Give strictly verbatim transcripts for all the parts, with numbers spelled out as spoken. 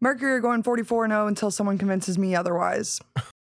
Mercury are going forty-four and oh until someone convinces me otherwise.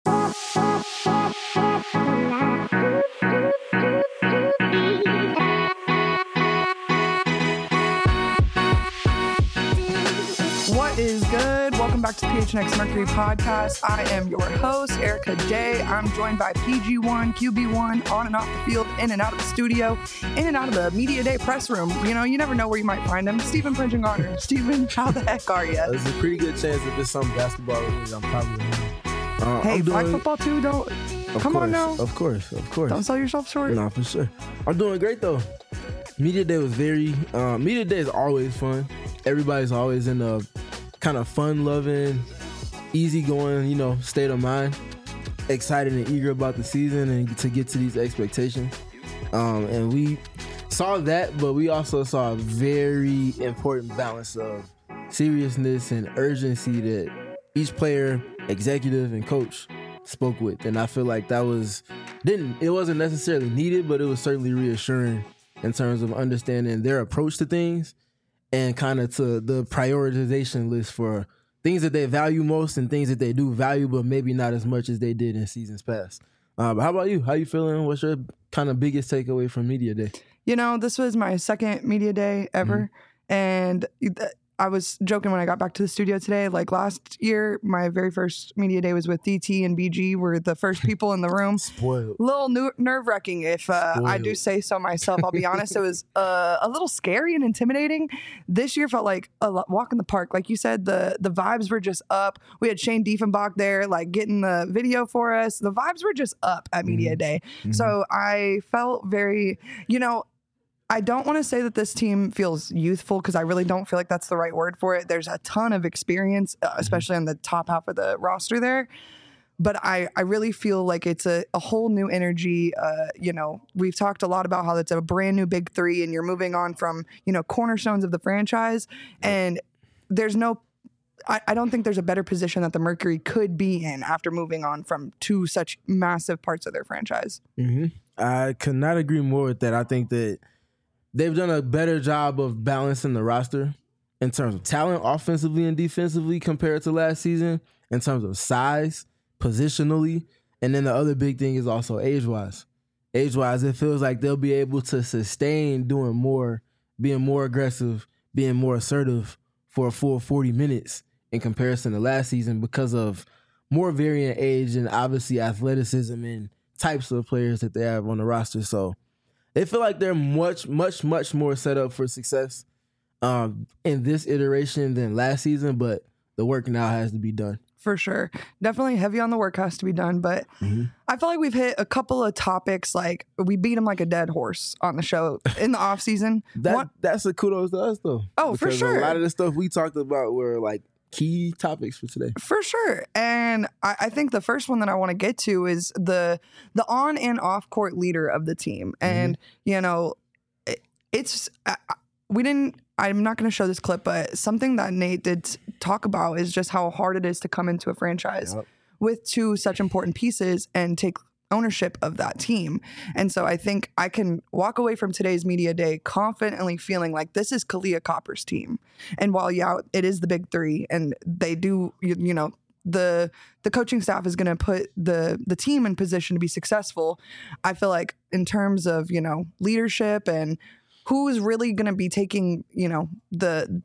What is good? Welcome back to the P H N X Mercury podcast. I am your host, Erica Day. I'm joined by P G one, Q B one, on and off the field, in and out of the studio, in and out of the Media Day press room. You know, you never know where you might find him. Stephen Prinching-Garner. Stephen, how the heck are you? There's a pretty good chance if it's some basketball related, I'm probably uh, Hey, I'm flag doing, football too, don't... Of Come course, on now. Of course, of course. Don't sell yourself short. No, for sure. I'm doing great, though. Media Day was very... Uh, Media Day is always fun. Everybody's always in a kind of fun-loving, easygoing, you know, state of mind. Excited and eager about the season and to get to these expectations. Um, and we saw that, but we also saw a very important balance of seriousness and urgency that each player, executive, and coach spoke with. And I feel like that was didn't it wasn't necessarily needed, but it was certainly reassuring in terms of understanding their approach to things and kind of to the prioritization list for things that they value most and things that they do value, but maybe not as much as they did in seasons past. Uh, but how about you? How you feeling? What's your kind of biggest takeaway from Media Day? You know, this was my second Media Day ever, mm-hmm. and th- I was joking when I got back to the studio today. Like last year, my very first Media Day was with D T and B G. Were the first people in the room. Spoiled. A little nu- nerve-wracking, if uh, I do say so myself. I'll be honest. It was uh, a little scary and intimidating. This year felt like a walk in the park. Like you said, the the vibes were just up. We had Shane Diefenbach there, like getting the video for us. The vibes were just up at Media mm-hmm. Day. Mm-hmm. So I felt very, you know, I don't want to say that this team feels youthful because I really don't feel like that's the right word for it. There's a ton of experience, uh, especially on the top half of the roster there. But I, I really feel like it's a, a whole new energy. Uh, you know, we've talked a lot about how it's a brand new big three and you're moving on from, you know, cornerstones of the franchise. And there's no, I, I don't think there's a better position that the Mercury could be in after moving on from two such massive parts of their franchise. Mm-hmm. I could not agree more with that. I think that they've done a better job of balancing the roster in terms of talent, offensively and defensively, compared to last season, in terms of size, positionally, and then the other big thing is also age-wise. Age-wise, it feels like they'll be able to sustain doing more, being more aggressive, being more assertive for a full forty minutes in comparison to last season because of more varying age and obviously athleticism and types of players that they have on the roster. So they feel like they're much, much, much more set up for success um, in this iteration than last season, but the work now has to be done. For sure. Definitely heavy on the work has to be done, but mm-hmm. I feel like we've hit a couple of topics, like we beat them like a dead horse on the show in the off season. that, One, that's a kudos to us, though. Oh, for sure. A lot of the stuff we talked about were like key topics for today. For sure. And I, I think the first one that I want to get to is the the on and off court leader of the team. And, mm-hmm. you know, it, it's, uh, we didn't, I'm not going to show this clip, but something that Nate did talk about is just how hard it is to come into a franchise yep. with two such important pieces and take ownership of that team. And so I think I can walk away from today's Media Day confidently feeling like this is Kahleah Copper's team. And while, yeah, it is the big three and they do, you, you know, the the coaching staff is going to put the the team in position to be successful. I feel like in terms of, you know, leadership and who is really going to be taking, you know, the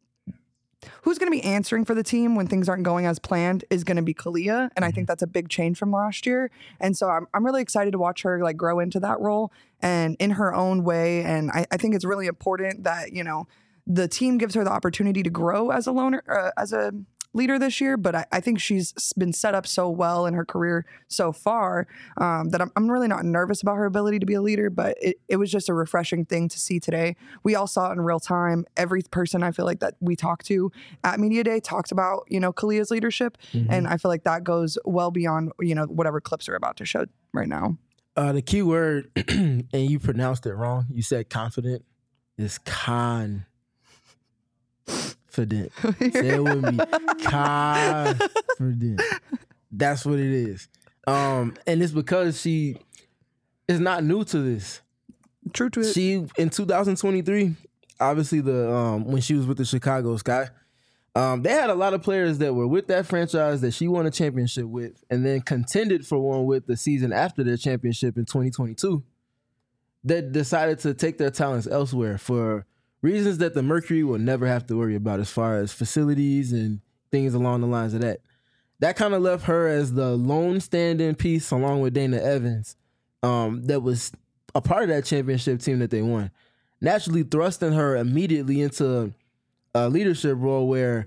who's going to be answering for the team when things aren't going as planned is going to be Kahleah. And I think that's a big change from last year. And so I'm I'm really excited to watch her like grow into that role and in her own way. And I, I think it's really important that, you know, the team gives her the opportunity to grow as a loner, uh, as a leader this year, but I, I think she's been set up so well in her career so far um, that I'm, I'm really not nervous about her ability to be a leader, but it, it was just a refreshing thing to see today. We all saw it in real time. Every person I feel like that we talked to at Media Day talked about, you know, Kahleah's leadership. Mm-hmm. And I feel like that goes well beyond, you know, whatever clips are about to show right now. Uh, the key word, and you pronounced it wrong. You said confident, is con. Confident. Say it with me. Confident. That's what it is. Um, and it's because she is not new to this. True to it. She, in two thousand twenty-three, obviously the um, when she was with the Chicago Sky, Um, they had a lot of players that were with that franchise that she won a championship with and then contended for one with the season after their championship in twenty twenty-two that decided to take their talents elsewhere for reasons that the Mercury will never have to worry about as far as facilities and things along the lines of that. That kind of left her as the lone stand-in piece along with Dana Evans um, that was a part of that championship team that they won, naturally thrusting her immediately into a leadership role where,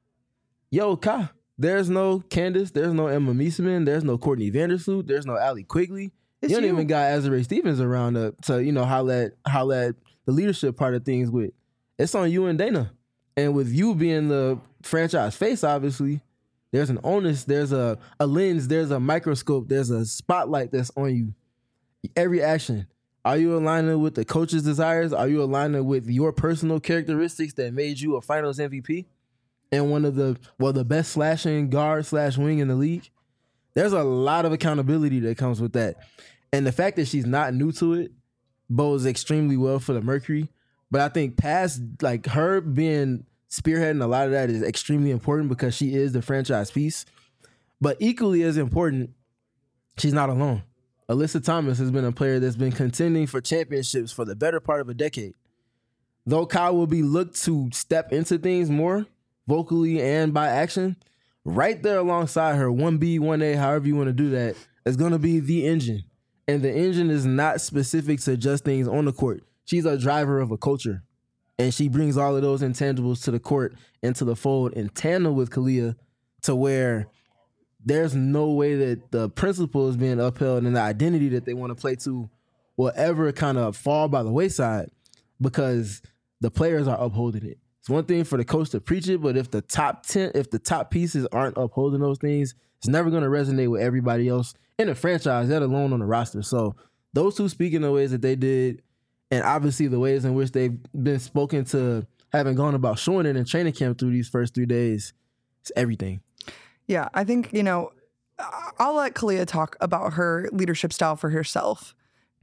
yo, Ka, there's no Candace, there's no Emma Meesseman, there's no Courtney Vandersloot, there's no Allie Quigley. It's you don't you. even got Azurá Stevens around to, to you know, holler at, holler at the leadership part of things with. It's on you and Dana. And with you being the franchise face, obviously, there's an onus, there's a, a lens, there's a microscope, there's a spotlight that's on you. Every action. Are you aligning with the coach's desires? Are you aligning with your personal characteristics that made you a finals M V P? And one of the, well, the best slashing guard slash wing in the league? There's a lot of accountability that comes with that. And the fact that she's not new to it bodes extremely well for the Mercury. But I think past, like, her being spearheading a lot of that is extremely important because she is the franchise piece. But equally as important, she's not alone. Alyssa Thomas has been a player that's been contending for championships for the better part of a decade. Though Kyle will be looked to step into things more, vocally and by action, right there alongside her, one B, one A, however you want to do that, is going to be the engine. And the engine is not specific to just things on the court. She's a driver of a culture. And she brings all of those intangibles to the court and to the fold in tandem with Kahleah to where there's no way that the principle is being upheld and the identity that they want to play to will ever kind of fall by the wayside because the players are upholding it. It's one thing for the coach to preach it, but if the top ten, if the top pieces aren't upholding those things, it's never going to resonate with everybody else in the franchise, let alone on the roster. So those two speaking the ways that they did, and obviously the ways in which they've been spoken to, having gone about showing it in training camp through these first three days, it's everything. Yeah, I think, you know, I'll let Kahleah talk about her leadership style for herself.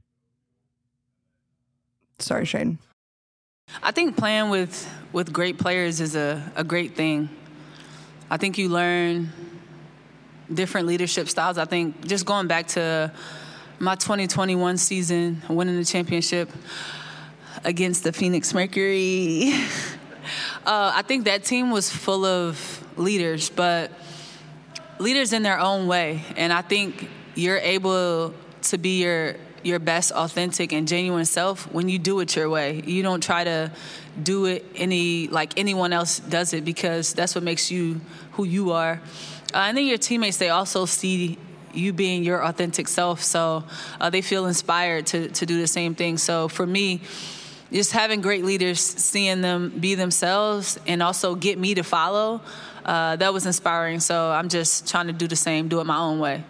Sorry, Shane. I think playing with, with great players is a, a great thing. I think you learn different leadership styles. I think just going back to my twenty twenty-one season, winning the championship against the Phoenix Mercury, uh, I think that team was full of leaders, but leaders in their own way. And I think you're able to be your your best authentic and genuine self when you do it your way. You don't try to do it any like anyone else does it because that's what makes you who you are. Uh, and then your teammates, they also see you being your authentic self. So uh, they feel inspired to to do the same thing. So for me, just having great leaders, seeing them be themselves and also get me to follow, Uh, that was inspiring. So I'm just trying to do the same, do it my own way.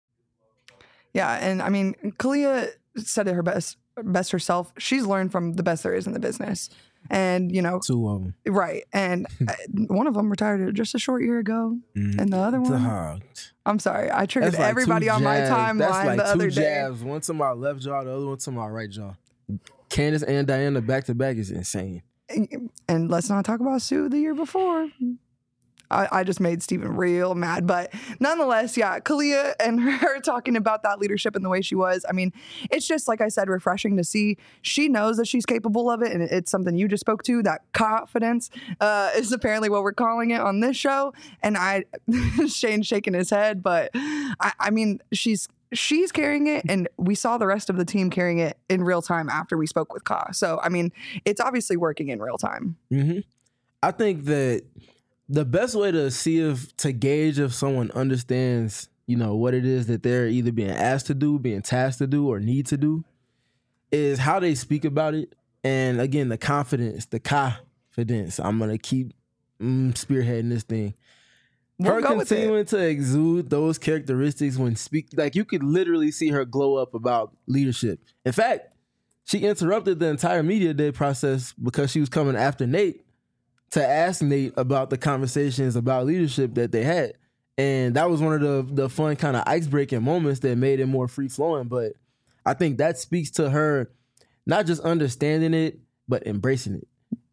Yeah, and I mean, Kahleah said it her best, best herself. She's learned from the best there is in the business, and you know, two of them, right? And one of them retired just a short year ago, mm, and the other one, dog. I'm sorry, I triggered like everybody on my timeline like the other two day. Jabs, one to my left jaw, the other one to my right jaw. Candace and Diana back to back is insane. And, and let's not talk about Sue the year before. I, I just made Steven real mad. But nonetheless, yeah, Kahleah and her talking about that leadership and the way she was. I mean, it's just, like I said, refreshing to see. She knows that she's capable of it. And it's something you just spoke to. That confidence uh, is apparently what we're calling it on this show. And I, Shane's shaking his head. But I, I mean, she's she's carrying it. And we saw the rest of the team carrying it in real time after we spoke with Ka. So, I mean, it's obviously working in real time. Mm-hmm. I think that the best way to see if, to gauge if someone understands, you know, what it is that they're either being asked to do, being tasked to do, or need to do, is how they speak about it. And again, the confidence, the confidence. I'm going to keep mm, spearheading this thing. We'll her continuing to exude those characteristics when speak, like you could literally see her glow up about leadership. In fact, she interrupted the entire media day process because she was coming after Nate to ask Nate about the conversations about leadership that they had. And that was one of the, the fun kind of ice-breaking moments that made it more free-flowing. But I think that speaks to her not just understanding it, but embracing it.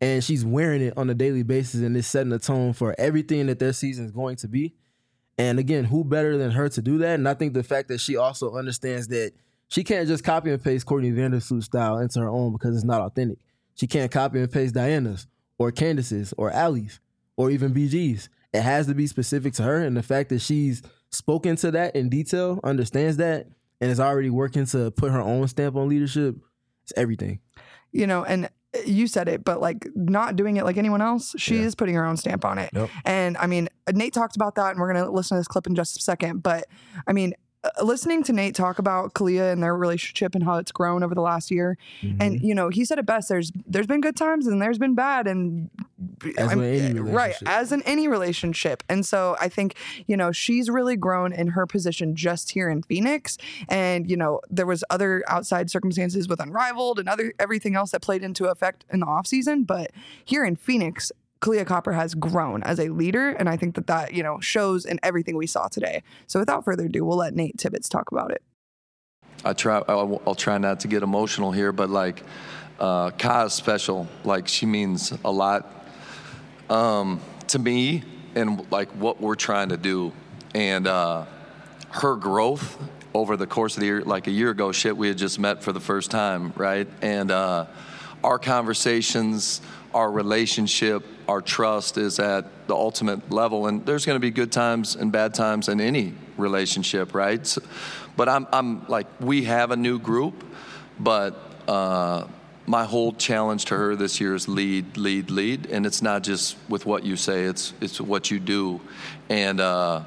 and she's wearing it on a daily basis, and it's setting the tone for everything that their season is going to be. And again, who better than her to do that? And I think the fact that she also understands that she can't just copy and paste Courtney Vandersloot's style into her own because it's not authentic. She can't copy and paste Diana's or Candace's or Allie's or even B G's. It has to be specific to her, and the fact that she's spoken to that in detail, understands that, and is already working to put her own stamp on leadership, it's everything. You know, and you said it, but like not doing it like anyone else, she Yeah. is putting her own stamp on it. Yep. And I mean, Nate talked about that, and we're going to listen to this clip in just a second. But I mean, uh, listening to Nate talk about Kalia and their relationship and how it's grown over the last year, Mm-hmm. and you know, he said it best. There's there's been good times and there's been bad, and As I'm- with any right, relationship. as in any relationship. And so I think, you know, she's really grown in her position just here in Phoenix. And, you know, there was other outside circumstances with Unrivaled and other everything else that played into effect in the offseason. But here in Phoenix, Kalia Copper has grown as a leader. And I think that that, you know, shows in everything we saw today. So without further ado, we'll let Nate Tibbetts talk about it. I try. I'll, I'll try not to get emotional here, but like, uh, Ka is special. Like, she means a lot um, to me and like what we're trying to do. And uh, her growth over the course of the year, like a year ago, shit, we had just met for the first time, right? And uh, our conversations, our relationship, our trust is at the ultimate level. And there's going to be good times and bad times in any relationship, right? So, but I'm, I'm like, we have a new group, but uh, my whole challenge to her this year is lead, lead, lead. And it's not just with what you say, it's it's what you do. And uh,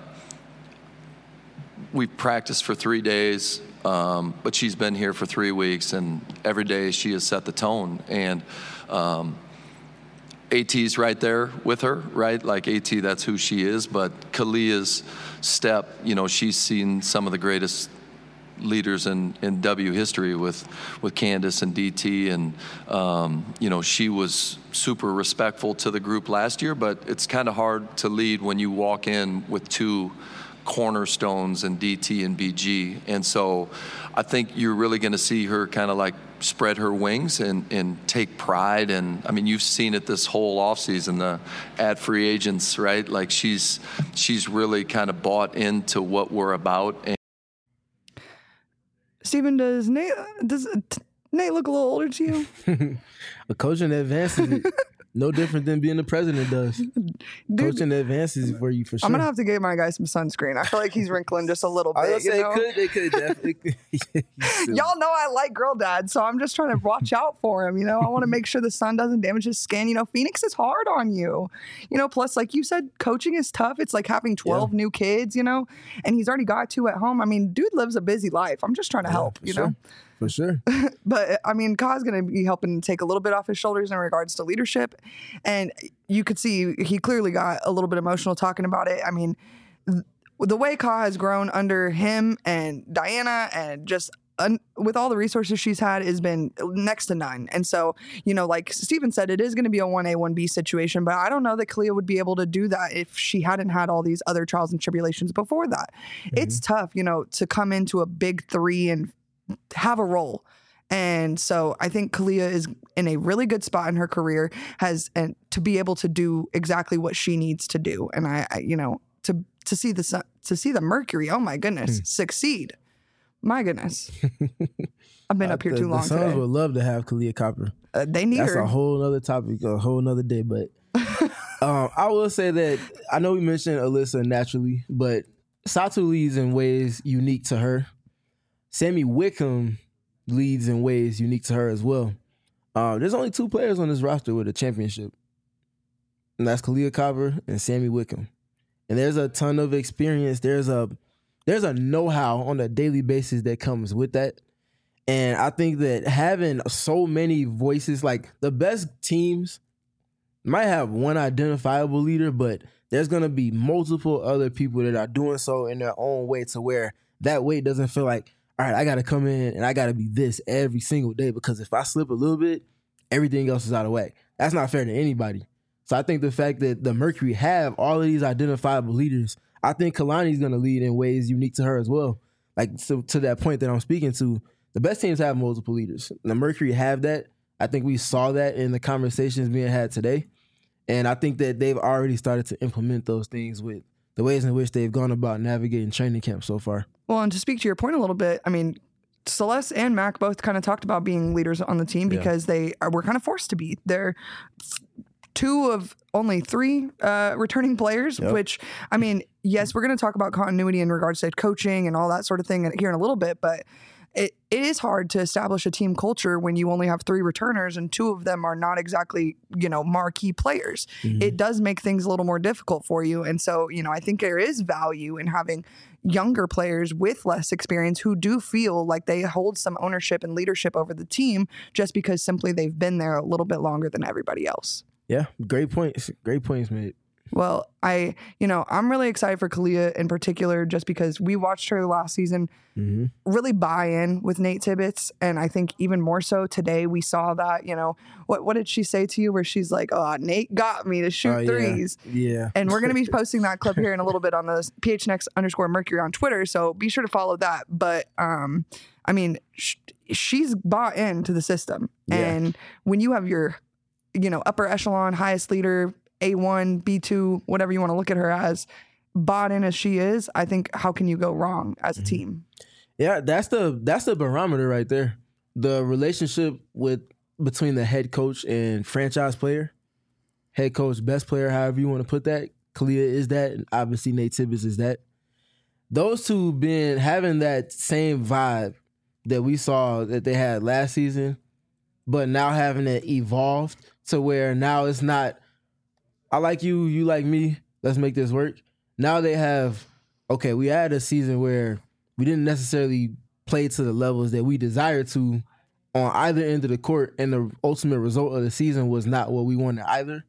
we've practiced for three days, um, but she's been here for three weeks, and every day she has set the tone. And um, AT's right there with her, right? Like AT, that's who she is. But Kalia's step, you know, she's seen some of the greatest leaders in, in W history with, with Candace and D T. And, um, you know, she was super respectful to the group last year, but it's kind of hard to lead when you walk in with two cornerstones in D T and B G. And so I think you're really going to see her kind of like spread her wings and, and take pride. And I mean, you've seen it this whole offseason, the ad free agents, right? Like she's, she's really kind of bought into what we're about. And Steven, does Nate, does t- Nate look a little older to you? A coaching advances it. No different than being the president does. Dude, Coaching advances for you for sure. I'm going to have to get my guy some sunscreen. I feel like he's wrinkling just a little I bit. was You gonna know? say, could, they could definitely. Y'all know I like girl dad, so I'm just trying to watch out for him. You know, I want to make sure the sun doesn't damage his skin. You know, Phoenix is hard on you. You know, plus, like you said, coaching is tough. It's like having twelve Yeah. new kids, you know, and he's already got two at home. I mean, dude lives a busy life. I'm just trying to help, for you sure. know? For sure. But I mean, Ka's going to be helping take a little bit off his shoulders in regards to leadership. And you could see he clearly got a little bit emotional talking about it. I mean, th- the way Ka has grown under him and Diana and just un- with all the resources she's had has been next to none. And so, you know, like Steven said, it is going to be a one A, one B situation, but I don't know that Kalia would be able to do that if she hadn't had all these other trials and tribulations before that. It's tough, you know, to come into a big three and have a role. And so I think Kalia is in a really good spot in her career, has and to be able to do exactly what she needs to do. And I, I you know, to to see the sun, to see the Mercury, oh my goodness, succeed. My goodness. I've been up here the, too long The Suns today. would love to have Kalia Copper. Uh, they need That's her. a whole other topic, a whole nother day. But um, I will say that I know we mentioned Alyssa naturally, but Satu leads in ways unique to her. Sammy Wickham leads in ways unique to her as well. Uh, there's only two players on this roster with a championship, and that's Kalia Copper and Sammy Wickham. And there's a ton of experience. There's a there's a know-how on a daily basis that comes with that. And I think that having so many voices, like the best teams might have one identifiable leader, but there's going to be multiple other people that are doing so in their own way to where that weight doesn't feel like, all right, I got to come in and I got to be this every single day, because if I slip a little bit, everything else is out of whack. That's not fair to anybody. So I think the fact that the Mercury have all of these identifiable leaders, I think Kalani's going to lead in ways unique to her as well. Like so, to that point that I'm speaking to, the best teams have multiple leaders. The Mercury have that. I think we saw that in the conversations being had today. And I think that they've already started to implement those things with the ways in which they've gone about navigating training camp so far. Well, and to speak to your point a little bit, I mean, Celeste and Mac both kind of talked about being leaders on the team because yeah. they are, were kind of forced to be. They're two of only three uh, returning players, yep. which, I mean, yes, we're going to talk about continuity in regards to coaching and all that sort of thing here in a little bit, but it, it is hard to establish a team culture when you only have three returners and two of them are not exactly, you know, marquee players. Mm-hmm. It does make things a little more difficult for you. And so, you know, I think there is value in having younger players with less experience who do feel like they hold some ownership and leadership over the team just because simply they've been there a little bit longer than everybody else. Yeah, great points. Great points, mate. Well, I, you know, I'm really excited for Kalia in particular just because we watched her last season mm-hmm. really buy in with Nate Tibbetts. And I think even more so today we saw that, you know, what what did she say to you where she's like, oh, Nate got me to shoot uh, threes. Yeah. yeah. And we're going to be posting that clip here in a little bit on the P H N X underscore Mercury on Twitter. So be sure to follow that. But, um, I mean, sh- she's bought into the system. Yeah. And when you have your, you know, upper echelon, highest leader, A one, B two, whatever you want to look at her as, bought in as she is, I think how can you go wrong as a team? Yeah, that's the that's the barometer right there. The relationship with between the head coach and franchise player, head coach, best player, however you want to put that. Kalia is that, and obviously Nate Tibbetts is that. Those two been having that same vibe that we saw that they had last season, but now having it evolved to where now it's not, I like you, you like me, let's make this work. Now they have, okay, we had a season where we didn't necessarily play to the levels that we desired to on either end of the court, and the ultimate result of the season was not what we wanted either.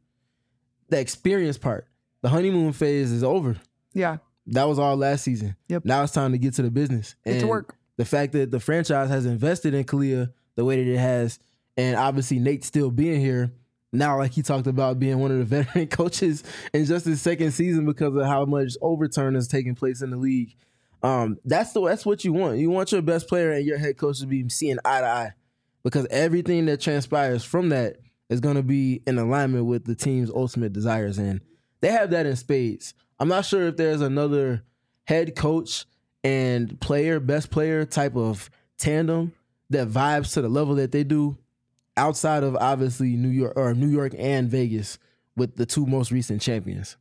The experience part, the honeymoon phase is over. Yeah. That was all last season. Yep. Now it's time to get to the business. Get and to work. The fact that the franchise has invested in Kalia the way that it has, and obviously Nate still being here, now, like he talked about being one of the veteran coaches in just his second season because of how much overturn is taking place in the league. Um, that's the that's what you want. You want your best player and your head coach to be seeing eye to eye, because everything that transpires from that is going to be in alignment with the team's ultimate desires, and they have that in spades. I'm not sure if there's another head coach and player, best player type of tandem that vibes to the level that they do, outside of obviously New York or New York and Vegas with the two most recent champions.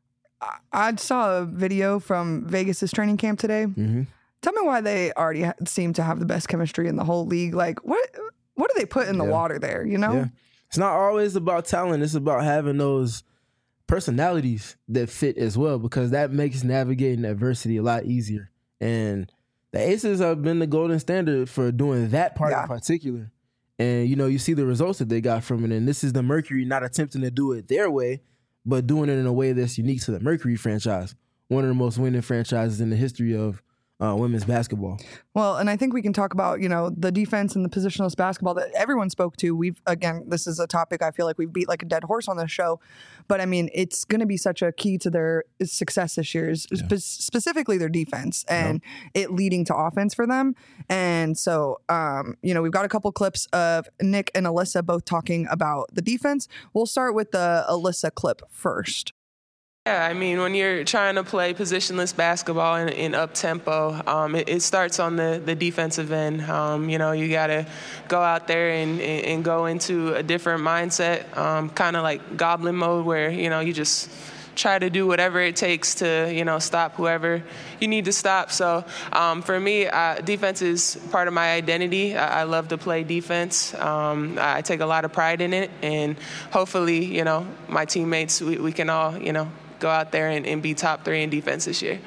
I saw a video from Vegas's training camp today. Mm-hmm. Tell me why they already ha- seem to have the best chemistry in the whole league. Like, what what do they put in the yeah. water there, you know? Yeah. It's not always about talent. It's about having those personalities that fit as well, because that makes navigating adversity a lot easier. And the Aces have been the golden standard for doing that part yeah. in particular. And, you know, you see the results that they got from it. And this is the Mercury not attempting to do it their way, but doing it in a way that's unique to the Mercury franchise, one of the most winning franchises in the history of uh, women's basketball. Well, and I think we can talk about, you know, the defense and the positionless basketball that everyone spoke to. We've, again, this is a topic I feel like we've beat like a dead horse on this show. But, I mean, it's going to be such a key to their success this year, is yeah. spe- specifically their defense and yeah. it leading to offense for them. And so, um, you know, we've got a couple clips of Nick and Alyssa both talking about the defense. We'll start with the Alyssa clip first. Yeah, I mean, when you're trying to play positionless basketball in, in up-tempo, um, it, it starts on the, the defensive end. Um, you know, you got to go out there and, and go into a different mindset, um, kind of like goblin mode where, you know, you just try to do whatever it takes to, you know, stop whoever you need to stop. So um, for me, uh, defense is part of my identity. I, I love to play defense. Um, I take a lot of pride in it. And hopefully, you know, my teammates, we, we can all, you know, go out there and, and be top three in defense this year.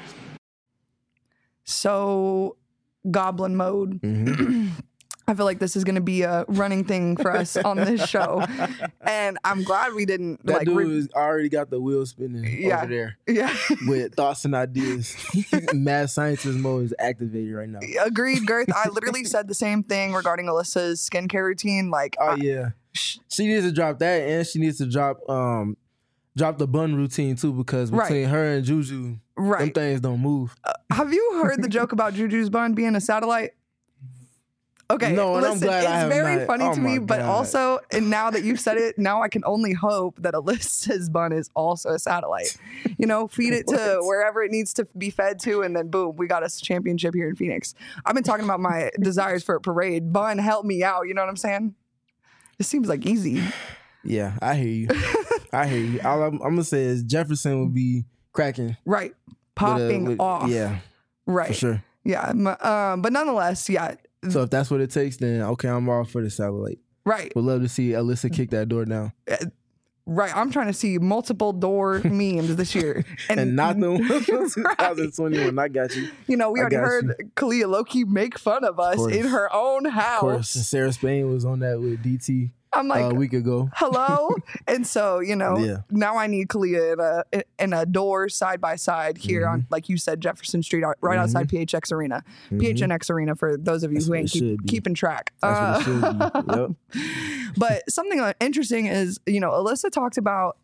So, goblin mode. Mm-hmm. I feel like this is going to be a running thing for us on this show. And I'm glad we didn't. That like, dude re- has already got the wheels spinning yeah. over there. Yeah. With thoughts and ideas. Mad scientist mode is activated right now. Agreed, Girth. I literally said the same thing regarding Alyssa's skincare routine. Like, oh, I, yeah. She needs to drop that, and she needs to drop um, drop the bun routine, too, because between right. her and Juju, right. them things don't move. Uh, have you heard the joke about Juju's bun being a satellite? Okay, No, and I'm listen, glad I it's have very not- funny oh to my me, but God. also, and now that you've said it, now I can only hope that Alyssa's bun is also a satellite. You know, feed it to What? wherever it needs to be fed to, and then boom, we got a championship here in Phoenix. I've been talking about my desires for a parade. Bun, help me out. You know what I'm saying? It seems like easy. Yeah, I hear you. I hear you. All I'm, I'm gonna say is Jefferson would be cracking, Right. with a- Popping with- off. Yeah, Right. for sure. Yeah. m- Um, but nonetheless, yeah. So if that's what it takes, then okay, I'm all for the satellite. Right. Would love to see Alyssa kick that door down, Right. I'm trying to see multiple door memes this year. and not the one from twenty twenty-one. I got you. You know, we I already got heard Kalia Loki make fun of us course. in her own Of course, and house. Sarah Spain was on that with D T I'm like, uh, a week ago. hello? And so, you know, Yeah. now I need Kalia in a in a door side by side here Mm-hmm. on, like you said, Jefferson Street, out- right outside P H X Arena. P H N X Arena for those of you That's who what ain't it keep, should be. keeping track. That's what it Uh, should be. Yep. But something uh, interesting is, you know, Alyssa talked about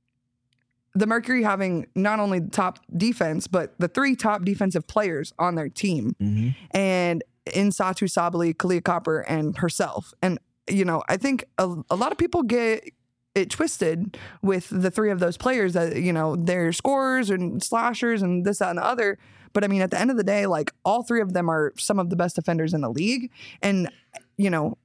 the Mercury having not only the top defense, but the three top defensive players on their team. Mhm. And in Satu Sabali, Kalia Copper, and herself. And, you know, I think a, a lot of people get it twisted with the three of those players that, you know, they're scorers and slashers and this, that, and the other. But I mean, at the end of the day, like all three of them are some of the best defenders in the league. And, you know,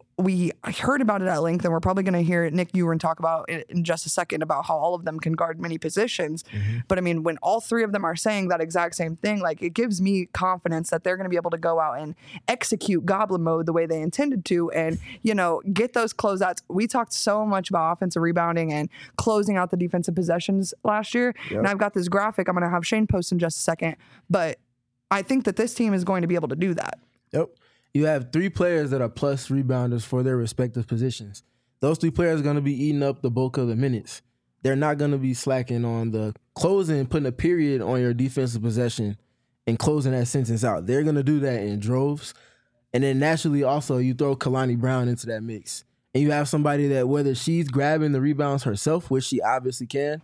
we heard about it at length, and we're probably going to hear Nick Ewan talk about it in just a second about how all of them can guard many positions. But I mean, when all three of them are saying that exact same thing, like it gives me confidence that they're going to be able to go out and execute Goblin mode the way they intended to, and you know, get those closeouts. We talked so much about offensive rebounding and closing out the defensive possessions last year, and I've got this graphic I'm going to have Shane post in just a second. But I think that this team is going to be able to do that. Yep. You have three players that are plus rebounders for their respective positions. Those three players are going to be eating up the bulk of the minutes. They're not going to be slacking on the closing, putting a period on your defensive possession and closing that sentence out. They're going to do that in droves. And then naturally also you throw Kalani Brown into that mix. And you have somebody that whether she's grabbing the rebounds herself, which she obviously can,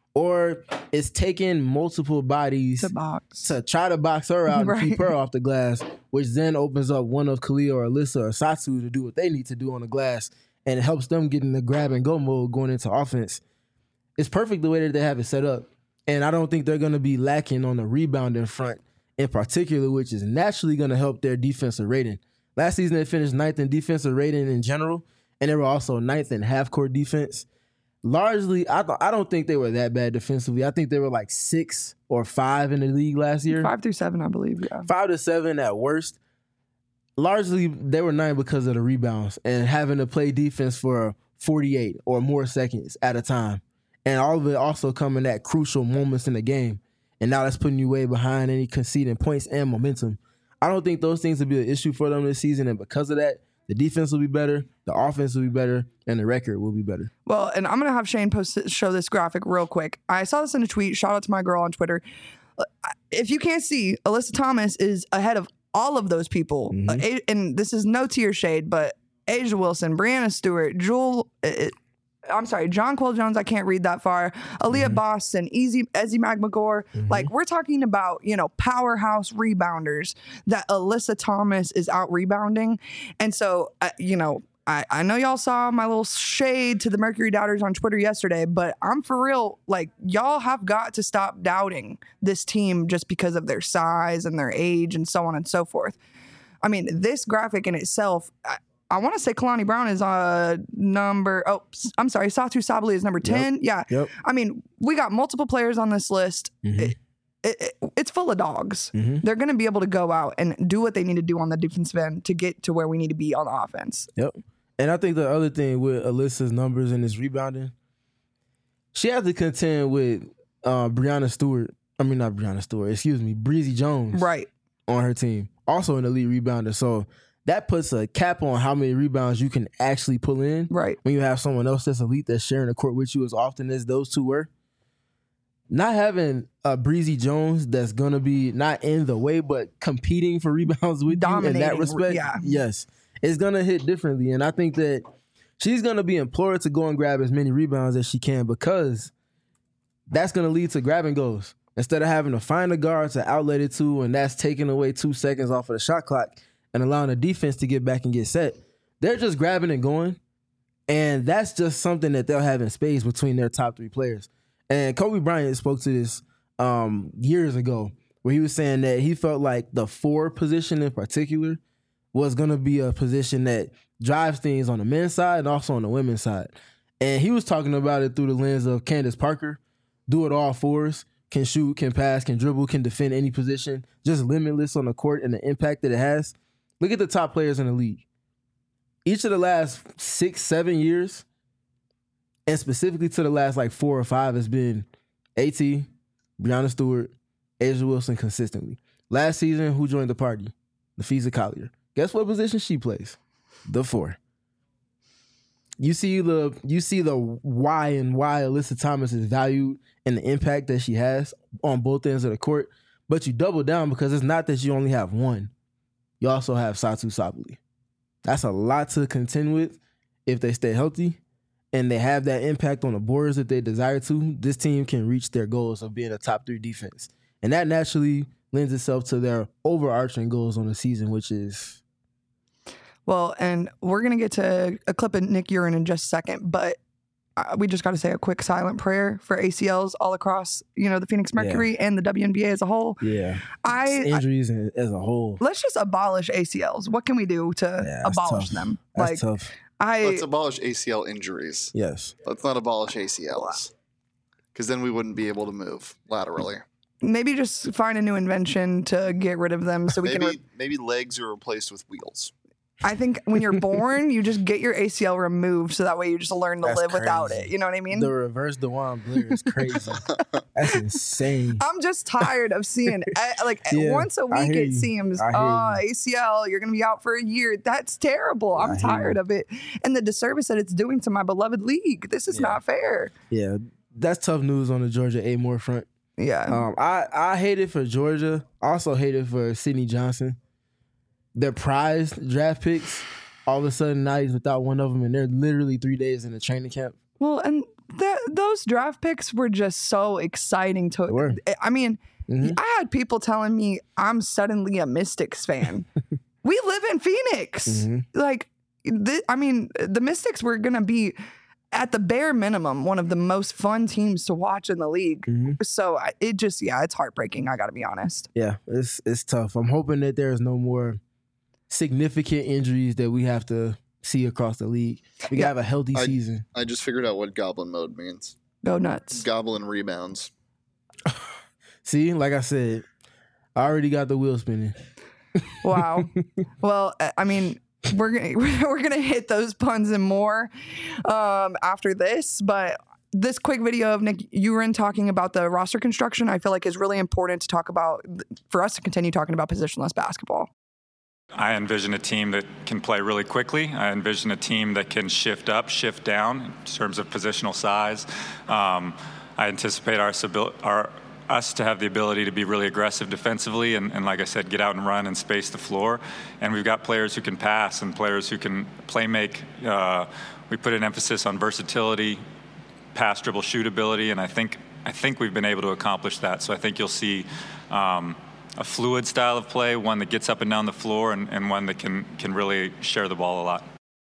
or is taking multiple bodies To box. to try to box her out Right. and keep her off the glass, which then opens up one of Kalia or Alyssa or Satu to do what they need to do on the glass, and it helps them get in the grab and go mode going into offense. It's perfect the way that they have it set up, and I don't think they're going to be lacking on the rebounding front in particular, which is naturally going to help their defensive rating. Last season they finished ninth in defensive rating in general, and they were also ninth in half-court defense. Largely, I th- I don't think they were that bad defensively. I think they were like six or five in the league last year. Five through seven, I believe. Yeah. Five to seven at worst. Largely, they were nine because of the rebounds and having to play defense for forty-eight or more seconds at a time. And all of it also coming at crucial moments in the game. And now that's putting you way behind any conceding points and momentum. I don't think those things will be an issue for them this season. And because of that, the defense will be better, the offense will be better, and the record will be better. Well, and I'm going to have Shane post show this graphic real quick. I saw this in a tweet. Shout out to my girl on Twitter. Uh, If you can't see, Alyssa Thomas is ahead of all of those people. Uh, A- and this is no tier shade, but Asia Wilson, Brianna Stewart, Jewel, uh, I'm sorry, John Quill Jones, I can't read that far. Aaliyah Boston, Easy, Ezzy McMagor. Like, we're talking about, you know, powerhouse rebounders that Alyssa Thomas is out rebounding. And so, uh, you know, I, I know y'all saw my little shade to the Mercury Doubters on Twitter yesterday, but I'm for real. Like, y'all have got to stop doubting this team just because of their size and their age and so on and so forth. I mean, this graphic in itself, I, I want to say Kalani Brown is uh, number, oh, s- I'm sorry, Satu Sabali is number ten. Yeah. Yep. I mean, we got multiple players on this list. Mhm. It, it, it- it's full of dogs. Mhm. They're going to be able to go out and do what they need to do on the defensive end to get to where we need to be on the offense. Yep. And I think the other thing with Alyssa's numbers and this rebounding, she has to contend with uh, Brianna Stewart. I mean, not Brianna Stewart, excuse me, Breezy Jones Right. on her team. Also an elite rebounder. So that puts a cap on how many rebounds you can actually pull in Right. when you have someone else that's elite that's sharing the court with you as often as those two were. Not having a Breezy Jones that's going to be not in the way, but competing for rebounds with you in that Dominating, respect. yeah. Yes. It's going to hit differently. And I think that she's going to be implored to go and grab as many rebounds as she can because that's going to lead to grab and goes. Instead of having to find a guard to outlet it to, and that's taking away two seconds off of the shot clock, and allowing the defense to get back and get set. They're just grabbing and going, and that's just something that they'll have in space between their top three players. And Kobe Bryant spoke to this um, years ago, where he was saying that he felt like the four position in particular was going to be a position that drives things on the men's side and also on the women's side. And he was talking about it through the lens of Candace Parker, do it all fours, can shoot, can pass, can dribble, can defend any position, just limitless on the court and the impact that it has. Look at the top players in the league. Each of the last six, seven years, and specifically to the last like four or five, has been AT, Breanna Stewart, A'ja Wilson consistently. Last season, who joined the party? Nafisa Collier. Guess what position she plays? The four. You see the you see the why and why Alyssa Thomas is valued and the impact that she has on both ends of the court, but you double down because it's not that you only have one. You also have Satu Sabally. That's a lot to contend with if they stay healthy and they have that impact on the boards that they desire to. This team can reach their goals of being a top three defense. And that naturally lends itself to their overarching goals on the season, which is... Well, and we're going to get to a clip of Nick Urin in just a second, but uh, we just got to say a quick silent prayer for A C Ls all across, you know, the Phoenix Mercury yeah. and the W N B A as a whole. Yeah. I Injuries I, as a whole. Let's just abolish A C Ls. What can we do to yeah, abolish tough. them? That's like, tough. I, Let's abolish A C L injuries. Yes. Let's not abolish A C Ls. Because then we wouldn't be able to move laterally. Maybe just find a new invention to get rid of them so we maybe, can... Re- maybe legs are replaced with wheels. I think when you're born, you just get your A C L removed so that way you just learn to That's live crazy. without it. You know what I mean? The reverse DeJuan Blair is crazy. That's insane. I'm just tired of seeing, uh, like, Yeah, once a I week hear it you. seems, I hear oh, you. A C L, you're going to be out for a year. That's terrible. I'm I hear tired you. of it. And the disservice that it's doing to my beloved league. This is Yeah. not fair. Yeah, that's tough news on the Georgia A. Moore front. Yeah. Um, I, I hate it for Georgia. I also hate it for Sydney Johnson. Their prized draft picks, all of a sudden now he's without one of them, and they're literally three days in the training camp. Well, and th- those draft picks were just so exciting to. They were. I mean, Mhm. I had people telling me I'm suddenly a Mystics fan. We live in Phoenix. Mhm. Like, th- I mean, the Mystics were going to be, at the bare minimum, one of the most fun teams to watch in the league. Mhm. So I- it just, yeah, it's heartbreaking. I got to be honest. Yeah, it's it's tough. I'm hoping that there's no more significant injuries that we have to see across the league. We can Yeah. have a healthy I- season. I just figured out what goblin mode means. Go nuts. Goblin rebounds. See, like I said, I already got the wheel spinning. Wow. Well, I- I mean, we're gonna we're gonna hit those puns and more um, after this, but this quick video of Nick Urin talking about the roster construction, I feel like is really important to talk about for us to continue talking about positionless basketball. I envision a team that can play really quickly. I envision a team that can shift up, shift down in terms of positional size. Um, I anticipate our, our us to have the ability to be really aggressive defensively and, and, like I said, get out and run and space the floor. And we've got players who can pass and players who can play make. Uh, we put an emphasis on versatility, pass, dribble, shoot ability, and I think I think we've been able to accomplish that. So I think you'll see um, a fluid style of play, one that gets up and down the floor, and, and one that can can really share the ball a lot.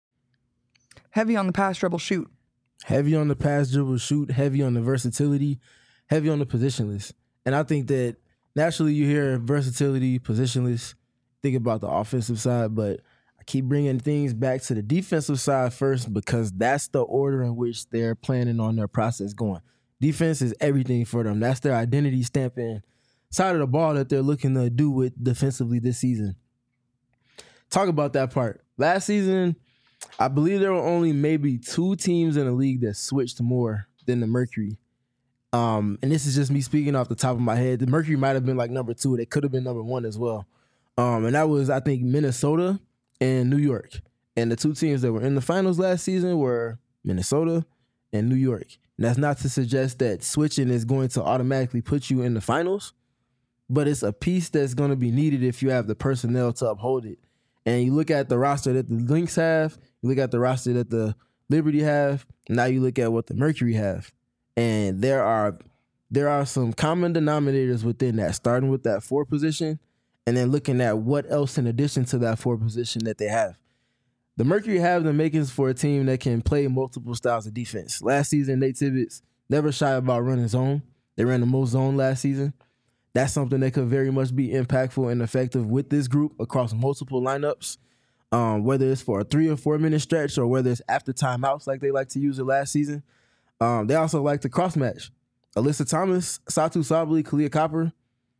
Heavy on the pass, dribble, shoot. Heavy on the pass, dribble, shoot. Heavy on the versatility. Heavy on the positionless. And I think that naturally you hear versatility, positionless, think about the offensive side, but I keep bringing things back to the defensive side first because that's the order in which they're planning on their process going. Defense is everything for them. That's their identity stamping side of the ball that they're looking to do with defensively this season. Talk about that part. Last season, I believe there were only maybe two teams in the league that switched more than the Mercury. Um, and this is just me speaking off the top of my head. The Mercury might have been like number two. They could have been number one as well. Um, and that was, I think, Minnesota and New York. And the two teams that were in the finals last season were Minnesota and New York. And that's not to suggest that switching is going to automatically put you in the finals, but it's a piece that's going to be needed if you have the personnel to uphold it. And you look at the roster that the Lynx have, you look at the roster that the Liberty have, now you look at what the Mercury have. And there are there are some common denominators within that, starting with that four position and then looking at what else in addition to that forward position that they have. The Mercury have the makings for a team that can play multiple styles of defense. Last season, Nate Tibbetts never shy about running zone. They ran the most zone last season. That's something that could very much be impactful and effective with this group across multiple lineups, um, whether it's for a three or four minute stretch or whether it's after timeouts like they like to use it last season. Um, they also like to cross match. Alyssa Thomas, Satu Sabally, Kalia Copper,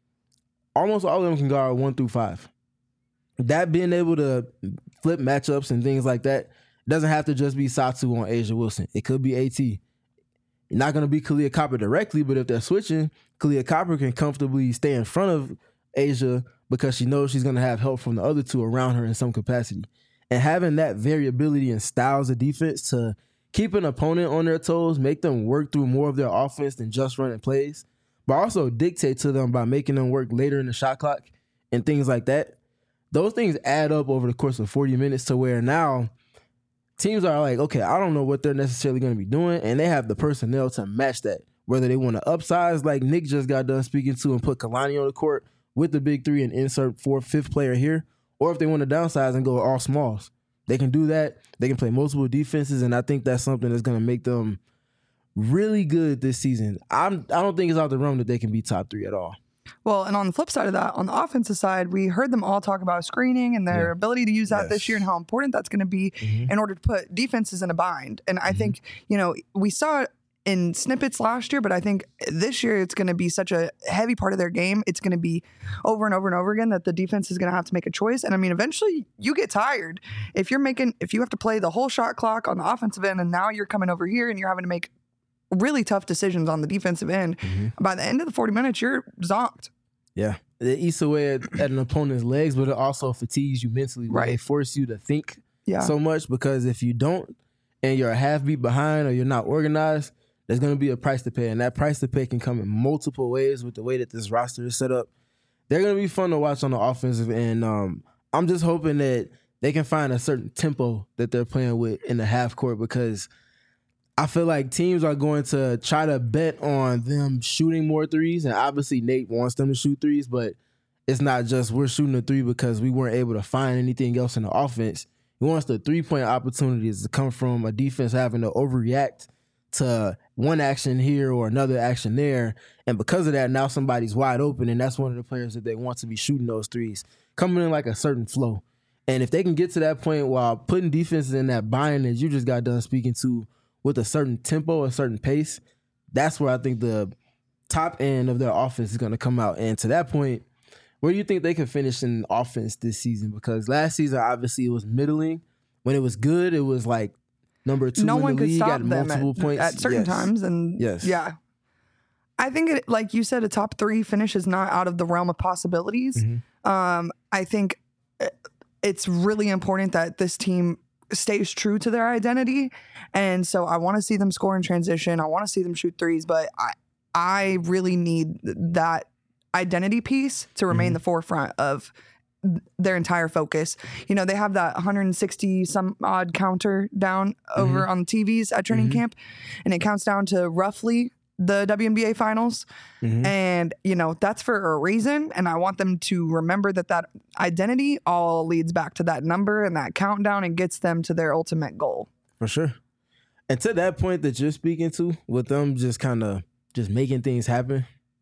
almost all of them can guard one through five. That being able to flip matchups and things like that doesn't have to just be Satu on Asia Wilson. It could be AT. Not going to be Kalia Copper directly, but if they're switching, Kalia Copper can comfortably stay in front of Asia because she knows she's going to have help from the other two around her in some capacity. And having that variability in styles of defense to keep an opponent on their toes, make them work through more of their offense than just running plays, but also dictate to them by making them work later in the shot clock and things like that. Those things add up over the course of forty minutes to where now teams are like, okay, I don't know what they're necessarily going to be doing, and they have the personnel to match that. Whether they want to upsize like Nick just got done speaking to and put Kalani on the court with the big three and insert fourth, fifth player here, or if they want to downsize and go all smalls. They can do that. They can play multiple defenses, and I think that's something that's going to make them really good this season. I'm, I don't think it's out the realm that they can be top three at all. Well, and on the flip side of that, on the offensive side, we heard them all talk about screening and their Yeah. ability to use that Yes. this year and how important that's going to be Mhm. in order to put defenses in a bind. And I Mhm. think, you know, we saw it in snippets last year, but I think this year it's going to be such a heavy part of their game. It's going to be over and over and over again that the defense is going to have to make a choice. And I mean, eventually you get tired if you're making, if you have to play the whole shot clock on the offensive end and now you're coming over here and you're having to make really tough decisions on the defensive end. Mhm. By the end of the forty minutes, you're zonked. Yeah. It eats away at, at an opponent's legs, but it also fatigues you mentally. Right. Right. They force you to think Yeah. so much because if you don't and you're a half beat behind or you're not organized, there's going to be a price to pay. And that price to pay can come in multiple ways with the way that this roster is set up. They're going to be fun to watch on the offensive end. Um, I'm just hoping that they can find a certain tempo that they're playing with in the half court because I feel like teams are going to try to bet on them shooting more threes. And obviously Nate wants them to shoot threes, but it's not just we're shooting a three because we weren't able to find anything else in the offense. He wants the three-point opportunities to come from a defense having to overreact to one action here or another action there. And because of that, now somebody's wide open, and that's one of the players that they want to be shooting those threes, coming in like a certain flow. And if they can get to that point while putting defenses in that bind that you just got done speaking to with a certain tempo, a certain pace, that's where I think the top end of their offense is going to come out. And to that point, where do you think they can finish in offense this season? Because last season, obviously, it was middling. When it was good, it was like number two No in one the could league stop at them multiple at, points. at certain Yes. times. And Yes. yeah, I think it, like you said, a top three finish is not out of the realm of possibilities. Mhm. Um, I think it's really important that this team stays true to their identity. And so I want to see them score in transition. I want to see them shoot threes, but I, I really need that identity piece to remain Mhm. the forefront of their entire focus. You know, they have that one hundred sixty some odd counter down over Mhm. on the T Vs at training Mhm. camp, and it counts down to roughly the W N B A finals. Mhm. And, you know, that's for a reason. And I want them to remember that that identity all leads back to that number and that countdown and gets them to their ultimate goal. For sure. And to that point that you're speaking to, with them just kind of just making things happen.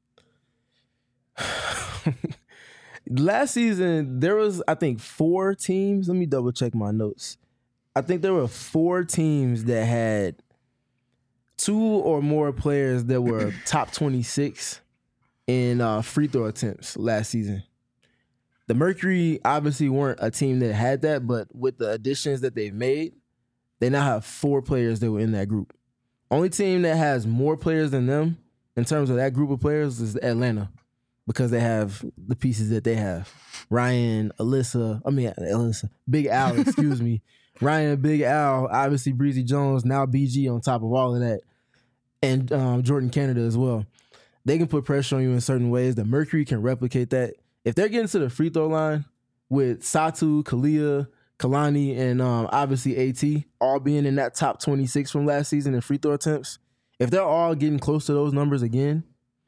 Last season, there was, I think, four teams. Let me double check my notes. I think there were four teams that had two or more players that were top twenty-six in uh, free throw attempts last season. The Mercury obviously weren't a team that had that, but with the additions that they've made, they now have four players that were in that group. Only team that has more players than them in terms of that group of players is Atlanta, because they have the pieces that they have. Ryan, Alyssa, I mean, Alyssa, Big Al, excuse me. Ryan, Big Al, obviously Breezy Jones, now B G on top of all of that, and um, Jordan Canada as well. They can put pressure on you in certain ways. The Mercury can replicate that. If they're getting to the free throw line with Satu, Kalia, Kalani, and um, obviously AT all being in that top twenty-six from last season in free throw attempts, if they're all getting close to those numbers again,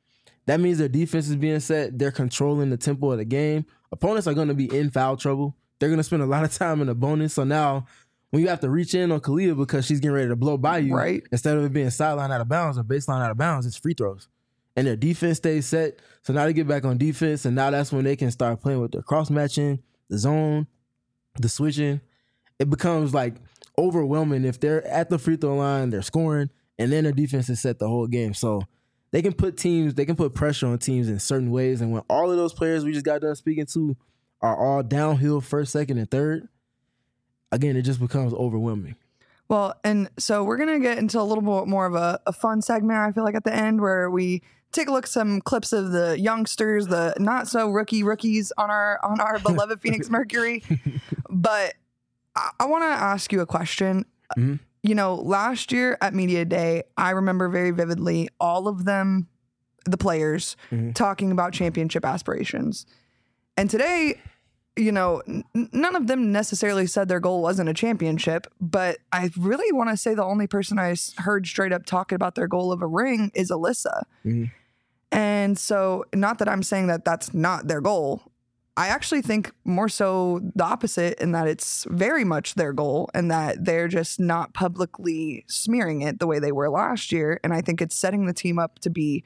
That means their defense is being set. They're controlling the tempo of the game. Opponents are going to be in foul trouble. They're going to spend a lot of time in the bonus. So now when you have to reach in on Kalia because she's getting ready to blow by you, right, instead of it being sideline out of bounds or baseline out of bounds, it's free throws. And their defense stays set. So now they get back on defense, and now that's when they can start playing with their cross-matching, the zone, the switching. It becomes like overwhelming if they're at the free throw line, they're scoring, and then their defense is set the whole game. So they can put teams, they can put pressure on teams in certain ways. And when all of those players we just got done speaking to are all downhill first, second, and third, again, it just becomes overwhelming. Well, and so we're going to get into a little bit more of a, a fun segment, I feel like, at the end, where we take a look at some clips of the youngsters, the not so rookie rookies on our on our beloved Phoenix Mercury. But I, I want to ask you a question. Mm-hmm. You know, last year at Media Day, I remember very vividly all of them, the players, mm-hmm. talking about championship aspirations. And today, you know, n- none of them necessarily said their goal wasn't a championship, but I really want to say the only person I heard straight up talking about their goal of a ring is Alyssa. Mm-hmm. And so, not that I'm saying that that's not their goal. I actually think more so the opposite, in that it's very much their goal and that they're just not publicly smearing it the way they were last year. And I think it's setting the team up to be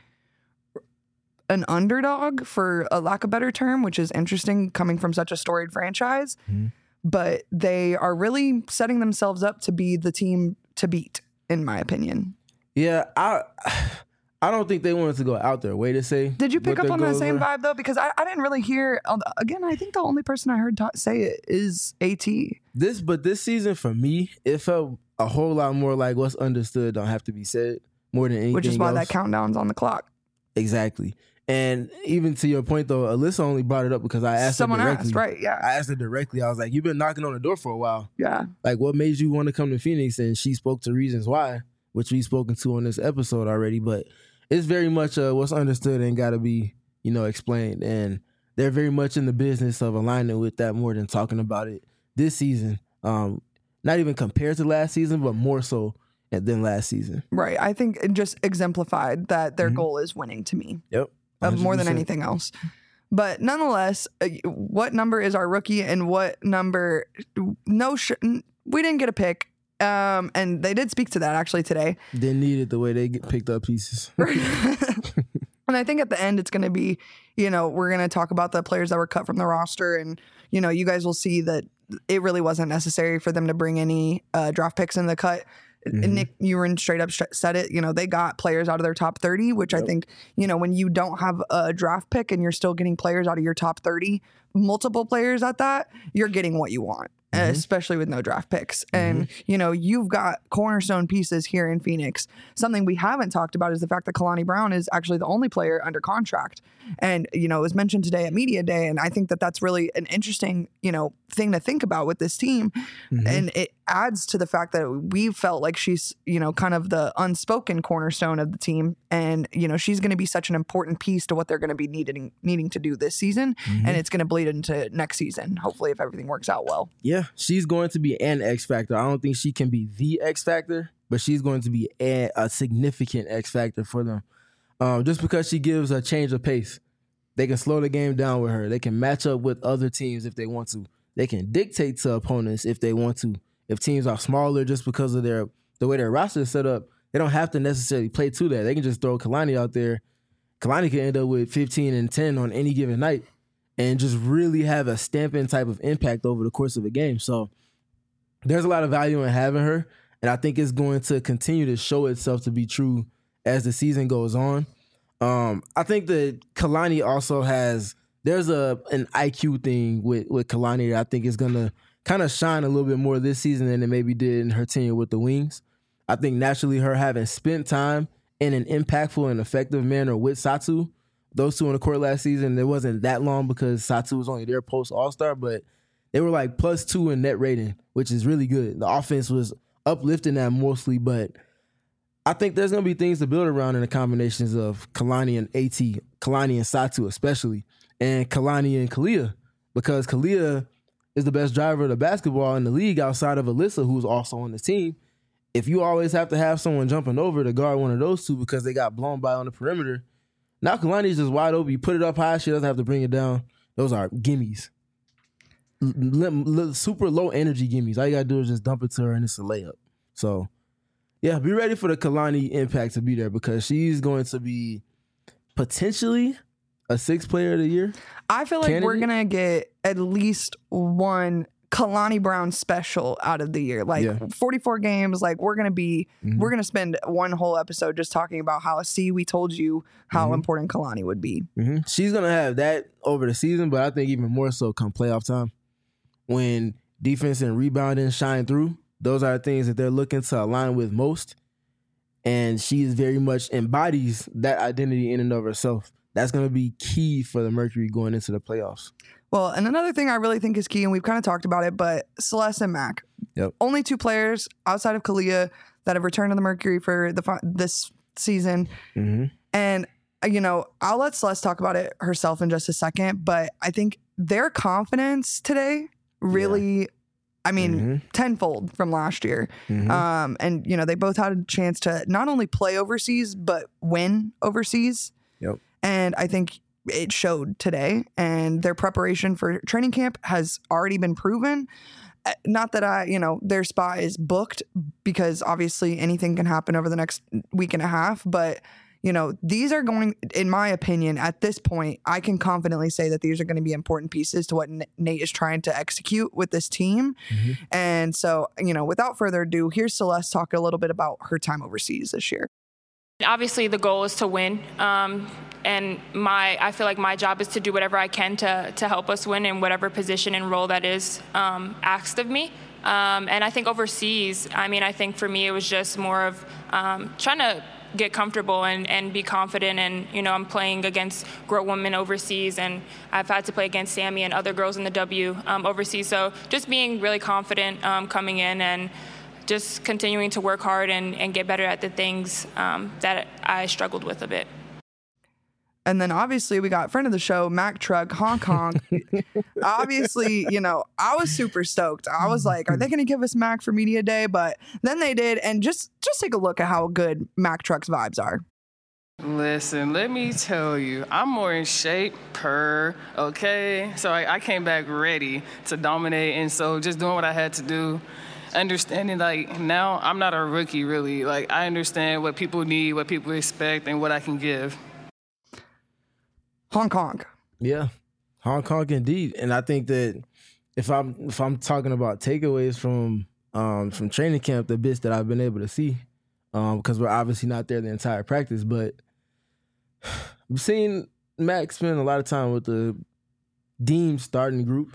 an underdog, for a lack of a better term, which is interesting coming from such a storied franchise. Mm-hmm. But they are really setting themselves up to be the team to beat, in my opinion. Yeah, I I don't think they wanted to go out their way to say. Did you pick up on that same were. vibe, though? Because I, I didn't really hear, again, I think the only person I heard ta- say it is AT. This, but this season for me, it felt a whole lot more like what's understood don't have to be said, more than anything Which is why else. that countdown's on the clock. Exactly. And even to your point, though, Alyssa only brought it up because I asked Someone her directly. Someone asked, right, yeah. I asked her directly. I was like, you've been knocking on the door for a while. Yeah. Like, what made you want to come to Phoenix? And she spoke to reasons why, which we've spoken to on this episode already. But it's very much uh, what's understood and got to be, you know, explained. And they're very much in the business of aligning with that more than talking about it this season. Um, not even compared to last season, but more so than last season. Right. I think it just exemplified that their mm-hmm. goal is winning to me. Yep. Of more than anything else. But nonetheless, uh, what number is our rookie and what number? No, sh- we didn't get a pick. Um, and they did speak to that actually today. Didn't need it the way they get picked up pieces. And I think at the end, it's going to be, you know, we're going to talk about the players that were cut from the roster. And, you know, you guys will see that it really wasn't necessary for them to bring any uh, draft picks in the cut. Mm-hmm. Nick Uren straight up said it. You know, they got players out of their top thirty, which yep. I think, you know, when you don't have a draft pick and you're still getting players out of your top thirty, multiple players at that, you're getting what you want. Mm-hmm. Especially with no draft picks. Mm-hmm. And, you know, you've got cornerstone pieces here in Phoenix. Something we haven't talked about is the fact that Kalani Brown is actually the only player under contract. And, you know, it was mentioned today at Media Day. And I think that that's really an interesting, you know, thing to think about with this team. Mm-hmm. And it adds to the fact that we felt like she's, you know, kind of the unspoken cornerstone of the team. And, you know, she's going to be such an important piece to what they're going to be needing, needing to do this season. Mm-hmm. And it's going to bleed into next season, hopefully, if everything works out well. Yeah, she's going to be an X factor. I don't think she can be the X factor, but she's going to be a, a significant X factor for them. Um, just because she gives a change of pace. They can slow the game down with her. They can match up with other teams if they want to. They can dictate to opponents if they want to. If teams are smaller just because of their the way their roster is set up, they don't have to necessarily play to that. They can just throw Kalani out there. Kalani can end up with fifteen and ten on any given night and just really have a stamping type of impact over the course of a game. So there's a lot of value in having her, and I think it's going to continue to show itself to be true as the season goes on. Um, I think that Kalani also has there's a an I Q thing with, with Kalani that I think is going to kind of shine a little bit more this season than it maybe did in her tenure with the Wings. I think naturally her having spent time in an impactful and effective manner with Satu, those two on the court last season, it wasn't that long because Satu was only their post All-Star, but they were like plus two in net rating, which is really good. The offense was uplifting that mostly, but I think there's going to be things to build around in the combinations of Kalani and AT, Kalani and Satu especially, and Kalani and Kalia, because Kalia is the best driver of the basketball in the league outside of Alyssa, who's also on the team. If you always have to have someone jumping over to guard one of those two because they got blown by on the perimeter, Now Kalani's just wide open. You put it up high, she doesn't have to bring it down. Those are gimmies. L- l- super low energy gimmies. All you gotta do is just dump it to her and it's a layup. So, yeah, be ready for the Kalani impact to be there because she's going to be potentially a sixth player of the year. I feel like candidate. We're gonna get at least one Kalani Brown special out of the year. Like Yeah. forty-four games. Like we're gonna be, Mhm. we're gonna spend one whole episode just talking about how. See, we told you how Mhm. important Kalani would be. Mm-hmm. She's gonna have that over the season, but I think even more so come playoff time when defense and rebounding shine through. Those are the things that they're looking to align with most, and she is very much embodies that identity in and of herself. That's gonna be key for the Mercury going into the playoffs. Well, and another thing I really think is key, and we've kind of talked about it, but Celeste and Mac, Yep. only two players outside of Kalia that have returned to the Mercury for the fi- this season. Mm-hmm. And, uh, you know, I'll let Celeste talk about it herself in just a second, but I think their confidence today really, I mean, Mm-hmm. tenfold from last year. Mm-hmm. Um, and, you know, they both had a chance to not only play overseas, but win overseas. Yep. And I think it showed today, and their preparation for training camp has already been proven. Uh, Not that I, you know, their spot is booked because obviously anything can happen over the next week and a half. But, you know, these are going, in my opinion, at this point, I can confidently say that these are going to be important pieces to what N- Nate is trying to execute with this team. Mm-hmm. And so, you know, without further ado, here's Celeste talk a little bit about her time overseas this year. Obviously, the goal is to win, um, and my I feel like my job is to do whatever I can to to help us win in whatever position and role that is um, asked of me. Um, and I think overseas, I mean, I think for me it was just more of um, trying to get comfortable and, and be confident. And, you know, I'm playing against grown women overseas, and I've had to play against Sammy and other girls in the W um, overseas. So just being really confident um, coming in and just continuing to work hard and, and get better at the things um, that I struggled with a bit. And then obviously we got friend of the show, Mac Truck, Hong Kong. Obviously, you know, I was super stoked. I was like, are they going to give us Mac for Media Day? But then they did. And just, just take a look at how good Mac Truck's vibes are. Listen, let me tell you, I'm more in shape per, okay? So I, I came back ready to dominate, and so just doing what I had to do, understanding, like, now I'm not a rookie, really. Like, I understand what people need, what people expect, and what I can give. Hong Kong. Yeah, Hong Kong indeed. And I think that if I'm if I'm talking about takeaways from um, from training camp, the bits that I've been able to see, um, because we're obviously not there the entire practice, but I've seen Max spend a lot of time with the deemed starting group.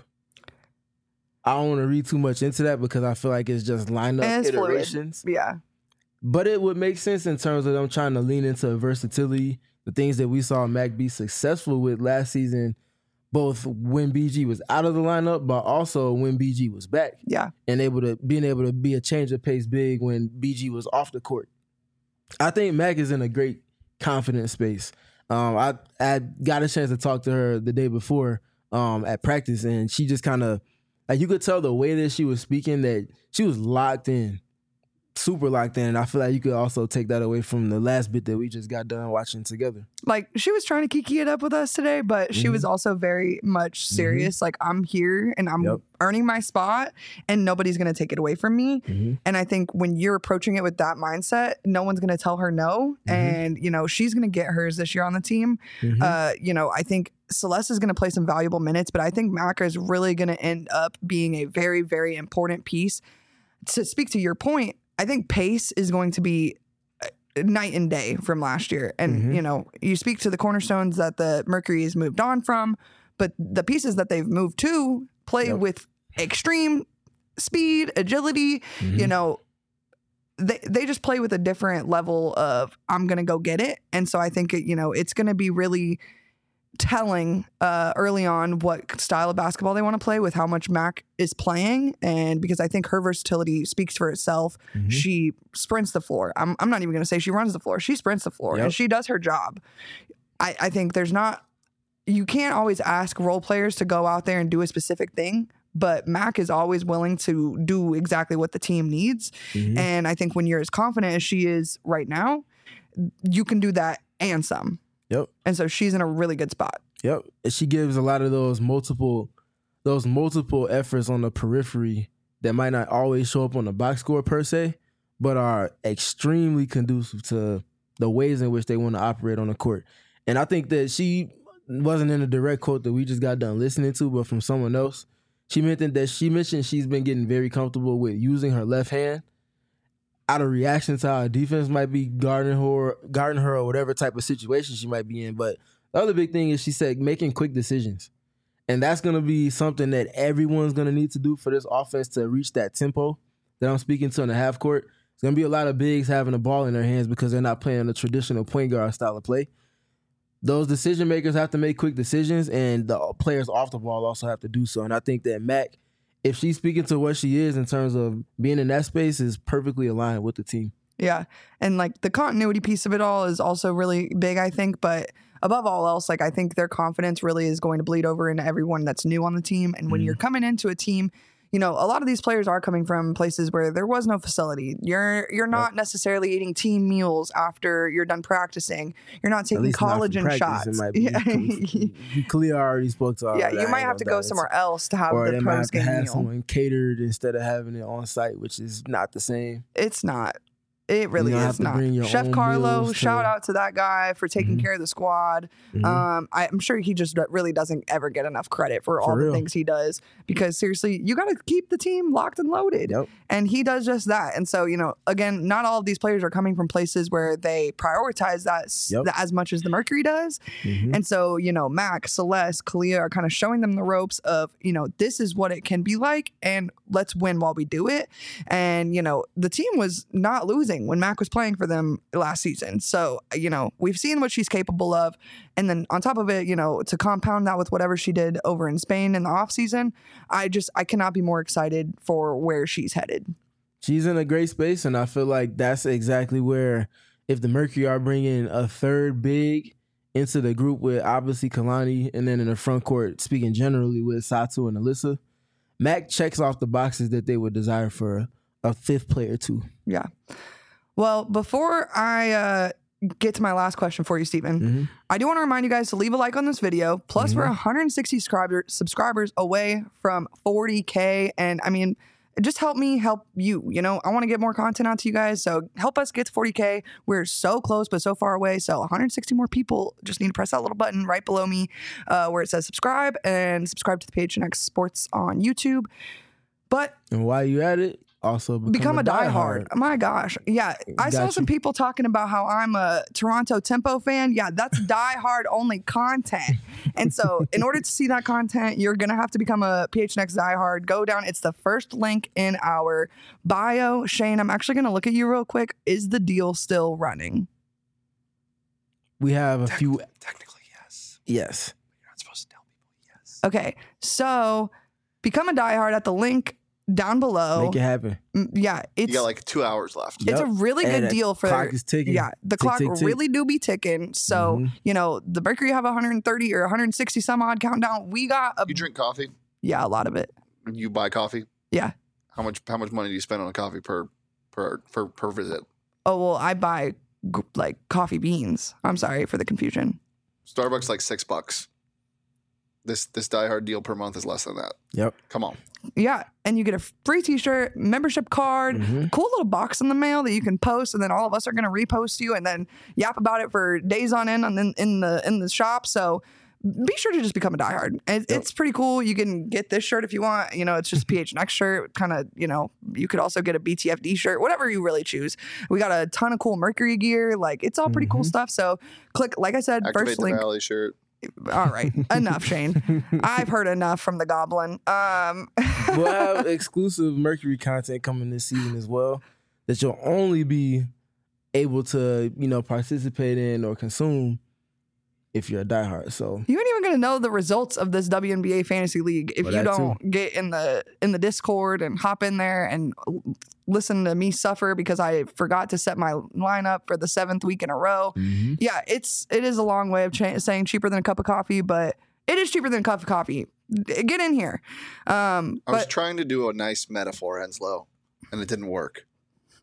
I don't want to read too much into that because I feel like it's just lineup And it's fluid. iterations. Yeah. But it would make sense in terms of them trying to lean into versatility, the things that we saw Mac be successful with last season, both when B G was out of the lineup, but also when B G was back. Yeah. And able to being able to be a change of pace big when B G was off the court. I think Mac is in a great confident space. Um, I I got a chance to talk to her the day before um, at practice, and she just kind of, like, you could tell the way that she was speaking that she was locked in. Super locked in. And I feel like you could also take that away from the last bit that we just got done watching together. Like, she was trying to kiki it up with us today, but she Mhm. was also very much serious. Like, I'm here and I'm Yep. earning my spot and nobody's going to take it away from me. Mhm. And I think when you're approaching it with that mindset, no one's going to tell her no. Mhm. And, you know, she's going to get hers this year on the team. Mhm. Uh, you know, I think Celeste is going to play some valuable minutes, but I think Maca is really going to end up being a very, very important piece. To speak to your point, I think pace is going to be night and day from last year. And, Mhm. you know, you speak to the cornerstones that the Mercury has moved on from, but the pieces that they've moved to play Yep. with extreme speed, agility, Mhm. you know, they they just play with a different level of I'm going to go get it. And so I think, it, you know, it's going to be really telling uh, early on what style of basketball they want to play with how much Mac is playing. And because I think her versatility speaks for itself. Mhm. She sprints the floor. I'm, I'm not even going to say she runs the floor. She sprints the floor Yep. and she does her job. I, I think there's not, you can't always ask role players to go out there and do a specific thing, but Mac is always willing to do exactly what the team needs. Mhm. And I think when you're as confident as she is right now, you can do that and some. Yep. And so she's in a really good spot. Yep. And she gives a lot of those multiple those multiple efforts on the periphery that might not always show up on the box score per se, but are extremely conducive to the ways in which they want to operate on the court. And I think that she wasn't in a direct quote that we just got done listening to, but from someone else. She mentioned that she mentioned she's been getting very comfortable with using her left hand out of reaction to how a defense might be guarding her, guarding her or whatever type of situation she might be in. But the other big thing is she said making quick decisions. And that's going to be something that everyone's going to need to do for this offense to reach that tempo that I'm speaking to in the half court. It's going to be a lot of bigs having the ball in their hands because they're not playing the traditional point guard style of play. Those decision makers have to make quick decisions, and the players off the ball also have to do so. And I think that Mac, if she's speaking to what she is in terms of being in that space, is perfectly aligned with the team. Yeah. And like the continuity piece of it all is also really big, I think. But above all else, like I think their confidence really is going to bleed over into everyone that's new on the team. And when mm. you're coming into a team, you know, a lot of these players are coming from places where there was no facility. You're you're not yep. necessarily eating team meals after you're done practicing. You're not taking collagen shots. It might be. Yeah. Kalia already spoke to all Yeah, that. you might have to go somewhere else to have or the post game meal. Or they might have to have meal. someone catered instead of having it on site, which is not the same. It's not. It really you is not. Chef Carlo, shout out to that guy for taking mm-hmm. care of the squad. Mm-hmm. Um, I, I'm sure he just really doesn't ever get enough credit for, for all real. the things he does because seriously, you got to keep the team locked and loaded. Yep. And he does just that. And so, you know, again, not all of these players are coming from places where they prioritize that yep. as much as the Mercury does. Mm-hmm. And so, you know, Mac, Celeste, Kalia are kind of showing them the ropes of, you know, this is what it can be like and let's win while we do it. And, you know, the team was not losing when Mac was playing for them last season. So, you know, we've seen what she's capable of. And then on top of it, you know, to compound that with whatever she did over in Spain in the offseason, I just, I cannot be more excited for where she's headed. She's in a great space, and I feel like that's exactly where, if the Mercury are bringing a third big into the group with obviously Kalani, and then in the front court, speaking generally with Satu and Alyssa, Mac checks off the boxes that they would desire for a fifth player too. Yeah. Well, before I uh, get to my last question for you, Stephen, mm-hmm. I do want to remind you guys to leave a like on this video. Plus, mm-hmm. we're one hundred sixty subscriber, subscribers away from forty K. And I mean, just help me help you. You know, I want to get more content out to you guys. So help us get to forty K. We're so close, but so far away. So one hundred sixty more people just need to press that little button right below me uh, where it says subscribe and subscribe to the P H N X Sports on YouTube. But and while you at it, also become, become a, a diehard. diehard. My gosh. Yeah. I Got saw you. some people talking about how I'm a Toronto Tempo fan. Yeah, that's diehard only content. And so in order to see that content, you're going to have to become a P H N X diehard. Go down. It's the first link in our bio. Shane, I'm actually going to look at you real quick. Is the deal still running? We have a Techn- few. Technically, yes. Yes. You're not supposed to tell people yes. Okay. So become a diehard at the link down below. Make it happen. Yeah, it's You got like two hours left. it's Yep. a really And good the deal for clock is ticking. Yeah, the Tick, clock tick, tick. really do be ticking. So Mhm. you know the Mercury have one hundred thirty or one hundred sixty some odd countdown. We got a You drink coffee? yeah a lot of it. You buy coffee? Yeah. How much how much money do you spend on a coffee per per per, per visit? Oh well, I buy g- like coffee beans. I'm sorry for the confusion. Starbucks like six bucks. This this diehard deal per month is less than that. Yep. Come on. Yeah, and you get a free T-shirt, membership card, Mhm. cool little box in the mail that you can post, and then all of us are going to repost you and then yap about it for days on end and then in the in the shop. So be sure to just become a diehard. It, Yep. It's pretty cool. You can get this shirt if you want. You know, it's just a P H N X shirt. Kind of, you know, you could also get a B T F D shirt, whatever you really choose. We got a ton of cool Mercury gear. Like it's all pretty cool Mhm. stuff. So click, like I said, Activate first the link. Valley shirt. All right, enough, Shane. I've heard enough from the Goblin. Um, We'll have exclusive Mercury content coming this season as well that you'll only be able to, you know, participate in or consume if you're a diehard. So You ain't even gonna know the results of this W N B A fantasy league if Well, you that don't too. get in the in the Discord and hop in there and l- listen to me suffer because I forgot to set my lineup for the seventh week in a row. Mhm. Yeah, it's it is a long way of cha- saying cheaper than a cup of coffee, but it is cheaper than a cup of coffee. D- Get in here. Um, I was but trying to do a nice metaphor, Henslow, and it didn't work.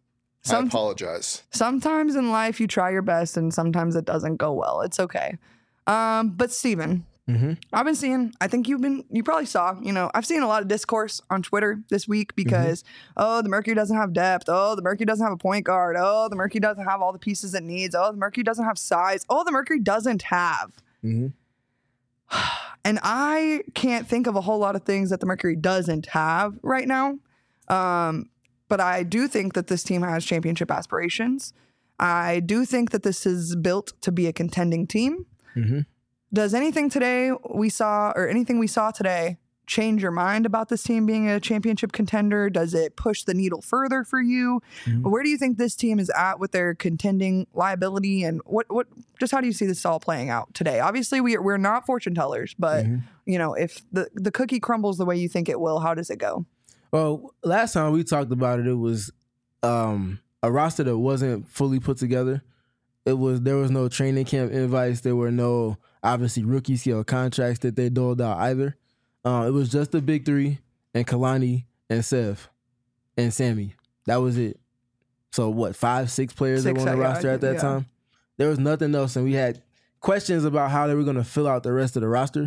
Some, I apologize. Sometimes in life you try your best and sometimes it doesn't go well. It's okay. Um, but Steven, mm-hmm. I've been seeing, I think you've been, you probably saw, you know, I've seen a lot of discourse on Twitter this week because, mm-hmm. oh, the Mercury doesn't have depth. Oh, the Mercury doesn't have a point guard. Oh, the Mercury doesn't have all the pieces it needs. Oh, the Mercury doesn't have size. Oh, the Mercury doesn't have. Mm-hmm. And I can't think of a whole lot of things that the Mercury doesn't have right now. Um, but I do think that this team has championship aspirations. I do think that this is built to be a contending team. Mm-hmm. Does anything today we saw or anything we saw today change your mind about this team being a championship contender? Does it push the needle further for you? Mm-hmm. Where do you think this team is at with their contending liability? And what, what, just how do you see this all playing out today? Obviously, we, we're not fortune tellers, but mm-hmm. you know, if the, the cookie crumbles the way you think it will, how does it go? Well, last time we talked about it, it was um, a roster that wasn't fully put together. It was there was no training camp invites. There were no obviously rookie scale contracts that they doled out either. Uh, it was just the big three and Kalani and Sev and Sammy. That was it. So what, five, six players six, that were on the roster at that yeah. time? There was nothing else, and we had questions about how they were going to fill out the rest of the roster.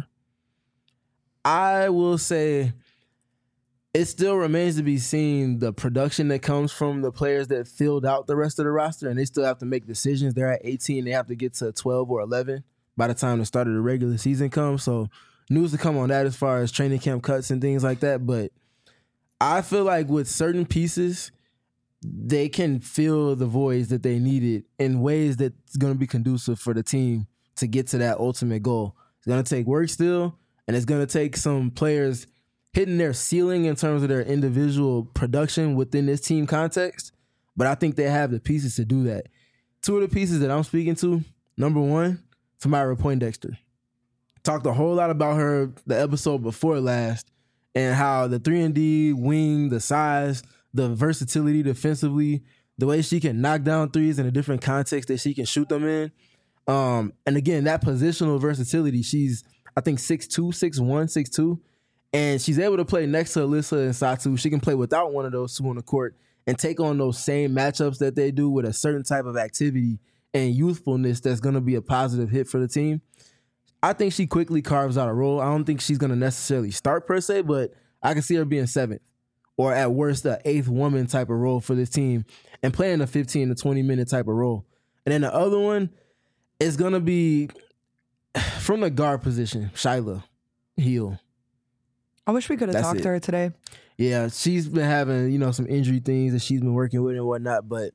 I will say it still remains to be seen the production that comes from the players that filled out the rest of the roster, and they still have to make decisions. They're at eighteen. They have to get to twelve or eleven by the time the start of the regular season comes. So news to come on that as far as training camp cuts and things like that. But I feel like with certain pieces, they can fill the voids that they needed in ways that's going to be conducive for the team to get to that ultimate goal. It's going to take work still, and it's going to take some players hitting their ceiling in terms of their individual production within this team context. But I think they have the pieces to do that. Two of the pieces that I'm speaking to, number one, Tamara Poindexter. Talked a whole lot about her the episode before last and how the three and D wing, the size, the versatility defensively, the way she can knock down threes in a different context that she can shoot them in. Um, and again, that positional versatility, she's, I think, six two, six one, six two. And she's able to play next to Alyssa and Satu. She can play without one of those two on the court and take on those same matchups that they do with a certain type of activity and youthfulness that's going to be a positive hit for the team. I think she quickly carves out a role. I don't think she's going to necessarily start per se, but I can see her being seventh or at worst the eighth woman type of role for this team and playing a fifteen to twenty minute type of role. And then the other one is going to be from the guard position, Shyla Heal. I wish we could have That's talked it. to her today. Yeah, she's been having, you know, some injury things that she's been working with and whatnot, but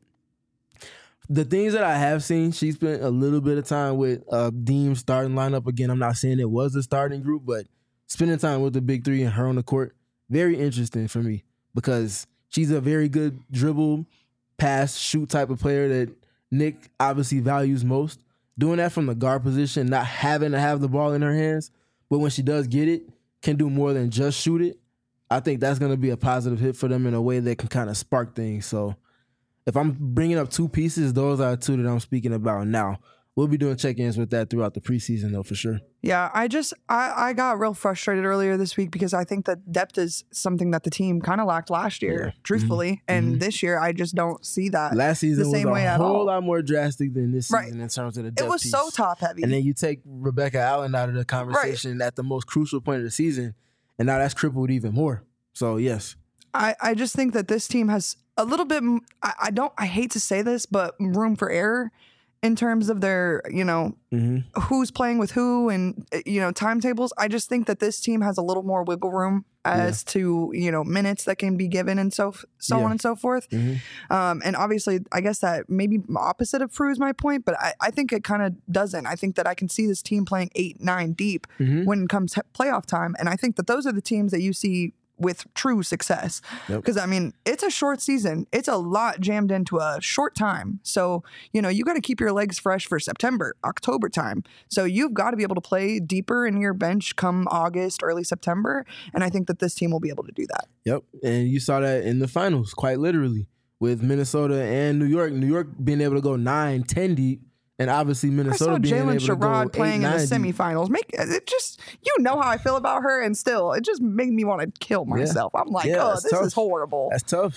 the things that I have seen, she spent a little bit of time with uh, Deem's starting lineup. Again, I'm not saying it was the starting group, but spending time with the big three and her on the court, very interesting for me because she's a very good dribble, pass, shoot type of player that Nick obviously values most. Doing that from the guard position, not having to have the ball in her hands, but when she does get it, can do more than just shoot it. I think that's going to be a positive hit for them in a way that can kind of spark things. So if I'm bringing up two pieces, those are two that I'm speaking about now. We'll be doing check-ins with that throughout the preseason, though, for sure. Yeah, I just, I, I got real frustrated earlier this week because I think that depth is something that the team kind of lacked last year, yeah. truthfully. Mm-hmm. And mm-hmm. this year, I just don't see that Last season the same was way a at whole all. lot more drastic than this season right. in terms of the depth It was piece. so top-heavy. And then you take Rebecca Allen out of the conversation right. at the most crucial point of the season, and now that's crippled even more. So, yes. I, I just think that this team has a little bit, I, I don't, I hate to say this, but room for error in terms of their, you know, mm-hmm. who's playing with who and, you know, timetables. I just think that this team has a little more wiggle room as yeah. to, you know, minutes that can be given and so so yeah. on and so forth. Mm-hmm. Um, and obviously, I guess that maybe opposite of proves my point, but I, I think it kind of doesn't. I think that I can see this team playing eight, nine deep mm-hmm. when it comes to playoff time. And I think that those are the teams that you see with true success. Because, yep. I mean, it's a short season. It's a lot jammed into a short time. So, you know, you got to keep your legs fresh for September, October time. So you've got to be able to play deeper in your bench come August, early September. And I think that this team will be able to do that. Yep. And you saw that in the finals, quite literally, with Minnesota and New York. New York being able to go nine, ten deep. And obviously Minnesota being able Jalen to go Sherrod playing eight, in the nine semifinals. Make it just, you know how I feel about her, and still, it just made me want to kill myself. Yeah. I'm like, yeah, oh, this tough. is horrible. That's tough.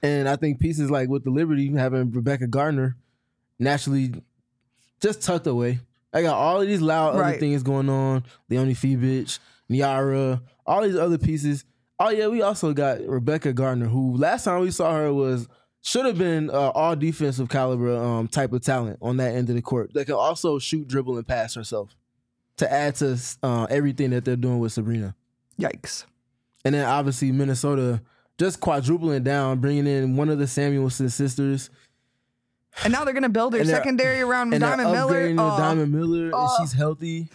And I think pieces like with the Liberty, having Rebecca Gardner naturally just tucked away. I got all of these loud Right. other things going on. Leonie Fibich, Niara, all these other pieces. Oh, yeah, we also got Rebecca Gardner, who last time we saw her was should have been uh, all defensive caliber um, type of talent on that end of the court that can also shoot, dribble, and pass herself to add to uh, everything that they're doing with Sabrina. Yikes. And then obviously Minnesota just quadrupling down, bringing in one of the Samuelson sisters. And now they're going to build their And they're- secondary around And Diamond they're Miller. upgrading Oh, to Diamond Miller, and oh. she's healthy.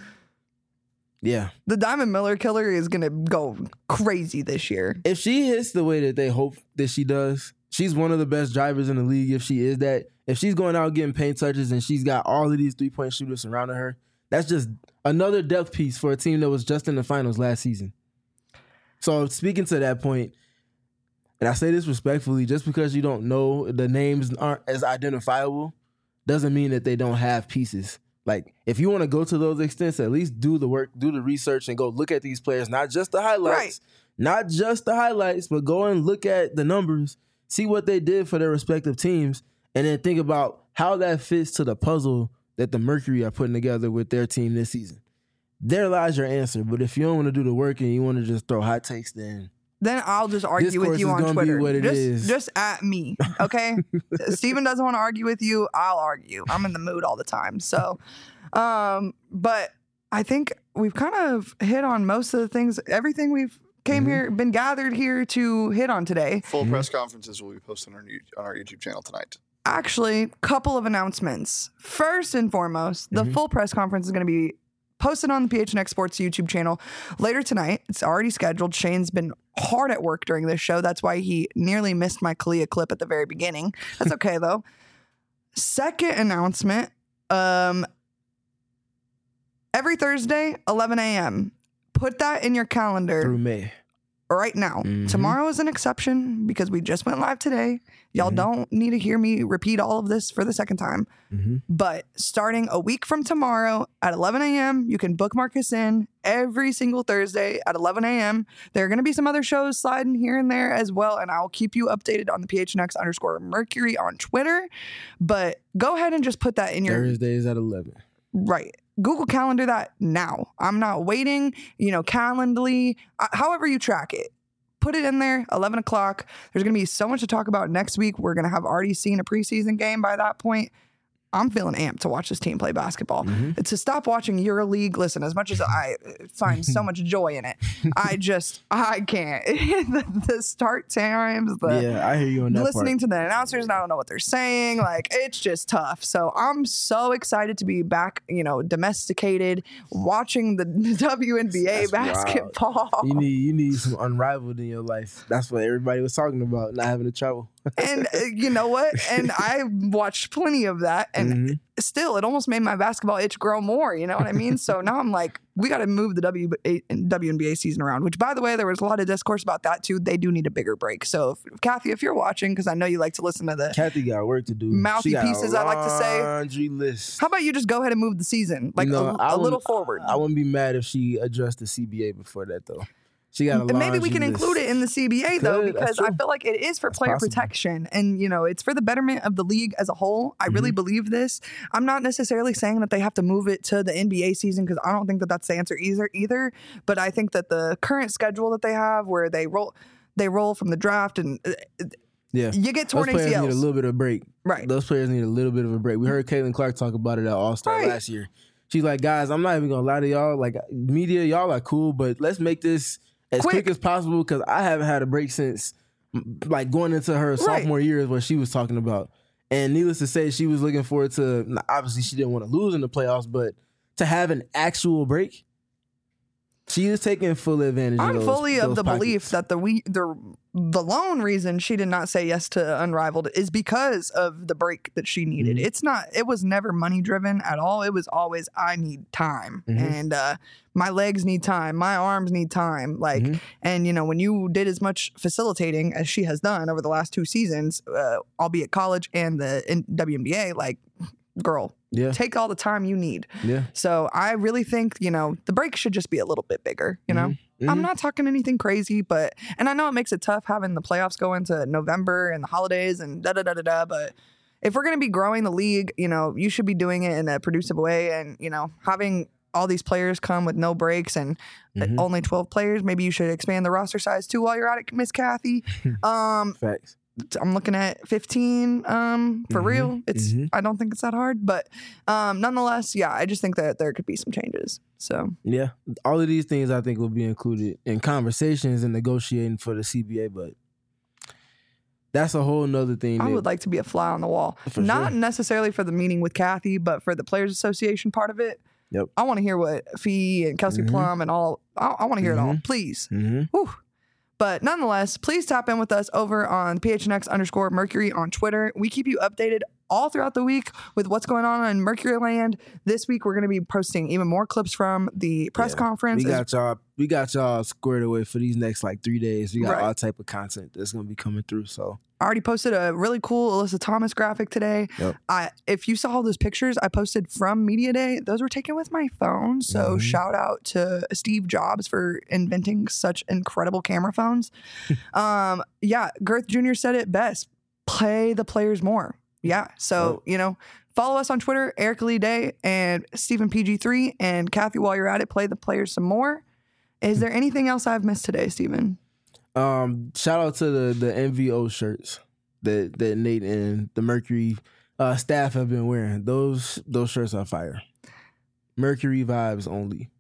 Yeah. The Diamond Miller killer is going to go crazy this year. If she hits the way that they hope that she does, she's one of the best drivers in the league if she is that. If she's going out getting paint touches and she's got all of these three-point shooters surrounding her, that's just another depth piece for a team that was just in the finals last season. So speaking to that point, and I say this respectfully, just because you don't know the names aren't as identifiable doesn't mean that they don't have pieces. Like, if you want to go to those extents, at least do the work, do the research, and go look at these players, not just the highlights, Right. not just the highlights, but go and look at the numbers, see what they did for their respective teams, and then think about how that fits to the puzzle that the Mercury are putting together with their team this season. There lies your answer. But if you don't want to do the work and you want to just throw hot takes, then Then I'll just argue Discourse with you is on gonna be Twitter. what it just, is. just at me, okay? Steven doesn't want to argue with you. I'll argue. I'm in the mood all the time. So, um, but I think we've kind of hit on most of the things. Everything we've came Mm-hmm. here, been gathered here to hit on today. Full press conferences will be posted on our, you- on our YouTube channel tonight. Actually, couple of announcements. First and foremost, the full press conference is going to be posted on the P H N X Sports YouTube channel later tonight. It's already scheduled. Shane's been hard at work during this show. That's why he nearly missed my Kalia clip at the very beginning. That's okay, though. Second announcement, um, every Thursday, eleven a.m. Put that in your calendar through May. right now. Mhm. Tomorrow is an exception because we just went live today. Y'all don't need to hear me repeat all of this for the second time. Mm-hmm. But starting a week from tomorrow at eleven a.m., you can bookmark us in every single Thursday at eleven a.m. There are going to be some other shows sliding here and there as well, and I'll keep you updated on the P H N X underscore Mercury on Twitter. But go ahead and just put that in your Thursdays at eleven. right. Google Calendar that now. I'm not waiting, you know, Calendly, uh, however you track it. Put it in there, eleven o'clock. There's going to be so much to talk about next week. We're going to have already seen a preseason game by that point. I'm feeling amped to watch this team play basketball. Mm-hmm. To stop watching EuroLeague, listen, as much as I find so much joy in it, I just, I can't. the, the start times, the Yeah, I hear you on that listening part. to the announcers and I don't know what they're saying. Like, it's just tough. So I'm so excited to be back, you know, domesticated, watching the W N B A That's wild. basketball. You need you need some unrivaled in your life. That's what everybody was talking about, not having to travel. And uh, you know what? And I watched plenty of that. And Mhm. still, it almost made my basketball itch grow more. You know what I mean? So now I'm like, we got to move the W N B A season around, which, by the way, there was a lot of discourse about that, too. They do need a bigger break. So, if, Kathy, if you're watching, because I know you like to listen to the Kathy got work to do. mouthy She got a pieces, I like to say. laundry list. How about you just go ahead and move the season, like You know, a, I a little wouldn't- forward? I wouldn't be mad if she addressed the C B A before that, though. She got a And maybe we laundry can list. include it in the C B A though, Could, that's because I true. feel like it is for player possible. protection, and you know, it's for the betterment of the league as a whole. I Mm-hmm. really believe this. I'm not necessarily saying that they have to move it to the N B A season because I don't think that that's the answer either. Either, but I think that the current schedule that they have, where they roll, they roll from the draft, and uh, Yeah. you get torn Those players A C Ls. need a little bit of break. Right. Those players need a little bit of a break. We heard Caitlin Clark talk about it at All-Star Right. last year. She's like, guys, I'm not even going to lie to y'all. Like, media, y'all are cool, but let's make this as Quick. quick, as possible because I haven't had a break since, m- like, going into her sophomore year is what she was talking about. And needless to say, she was looking forward to, obviously, she didn't want to lose in the playoffs, but to have an actual break, she is taking full advantage of I'm those, fully of those the belief pockets. that the we the the lone reason she did not say yes to Unrivaled is because of the break that she needed. Mm-hmm. It's not. It was never money driven at all. It was always I need time, Mm-hmm. and uh, my legs need time, my arms need time. Like, Mm-hmm. and you know, when you did as much facilitating as she has done over the last two seasons, uh, albeit college and the in W N B A, like, girl, Yeah. take all the time you need. Yeah. So I really think, you know, the break should just be a little bit bigger, you know? I'm Mhm. not talking anything crazy, but and I know it makes it tough having the playoffs go into November and the holidays and da da da da da. But if we're gonna be growing the league, you know, you should be doing it in a producive way, and you know, having all these players come with no breaks and Mhm. only twelve players. Maybe you should expand the roster size too while you're at it, Miss Kathy. Um, Facts. I'm looking at fifteen um, for Mhm. real. It's Mhm. I don't think it's that hard, but um, nonetheless, yeah, I just think that there could be some changes. So Yeah, all of these things I think will be included in conversations and negotiating for the C B A, but that's a whole nother thing. I that- would like to be a fly on the wall, For not sure. necessarily for the meeting with Kathy, but for the Players Association part of it. Yep. I want to hear what Fee and Kelsey Mhm. Plum and all. I, I want to hear it all, Mhm. please. Mhm. Whew. But nonetheless, please tap in with us over on P H N X underscore Mercury on Twitter. We keep you updated all throughout the week with what's going on in Mercury Land. This week, we're going to be posting even more clips from the press Yeah. conference. We as- got y'all. We got y'all squared away for these next like three days. We got Right. all type of content that's gonna be coming through. So I already posted a really cool Alyssa Thomas graphic today. Yep. I if you saw all those pictures I posted from Media Day, those were taken with my phone. So Mhm. shout out to Steve Jobs for inventing such incredible camera phones. um, yeah, Girth Junior said it best: play the players more. Yeah. So you know, follow us on Twitter, Erica Lee Day and Stephen P G three, and Kathy. While you're at it, play the players some more. Is there anything else I've missed today, Stephen? um, shout out to the the N V O shirts that that Nate and the Mercury uh, staff have been wearing. Those those shirts are fire. Mercury vibes only.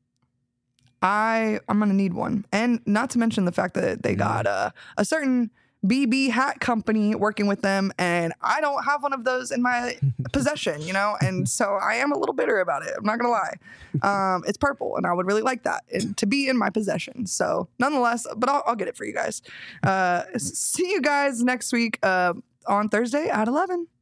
I I'm gonna need one, and not to mention the fact that they got a a certain B B hat company working with them, and I don't have one of those in my possession, you know, and so I am a little bitter about it. I'm not gonna lie. Um, it's purple, and I would really like that and to be in my possession. So nonetheless, but I'll, I'll get it for you guys. Uh, s- see you guys next week uh, on Thursday at eleven.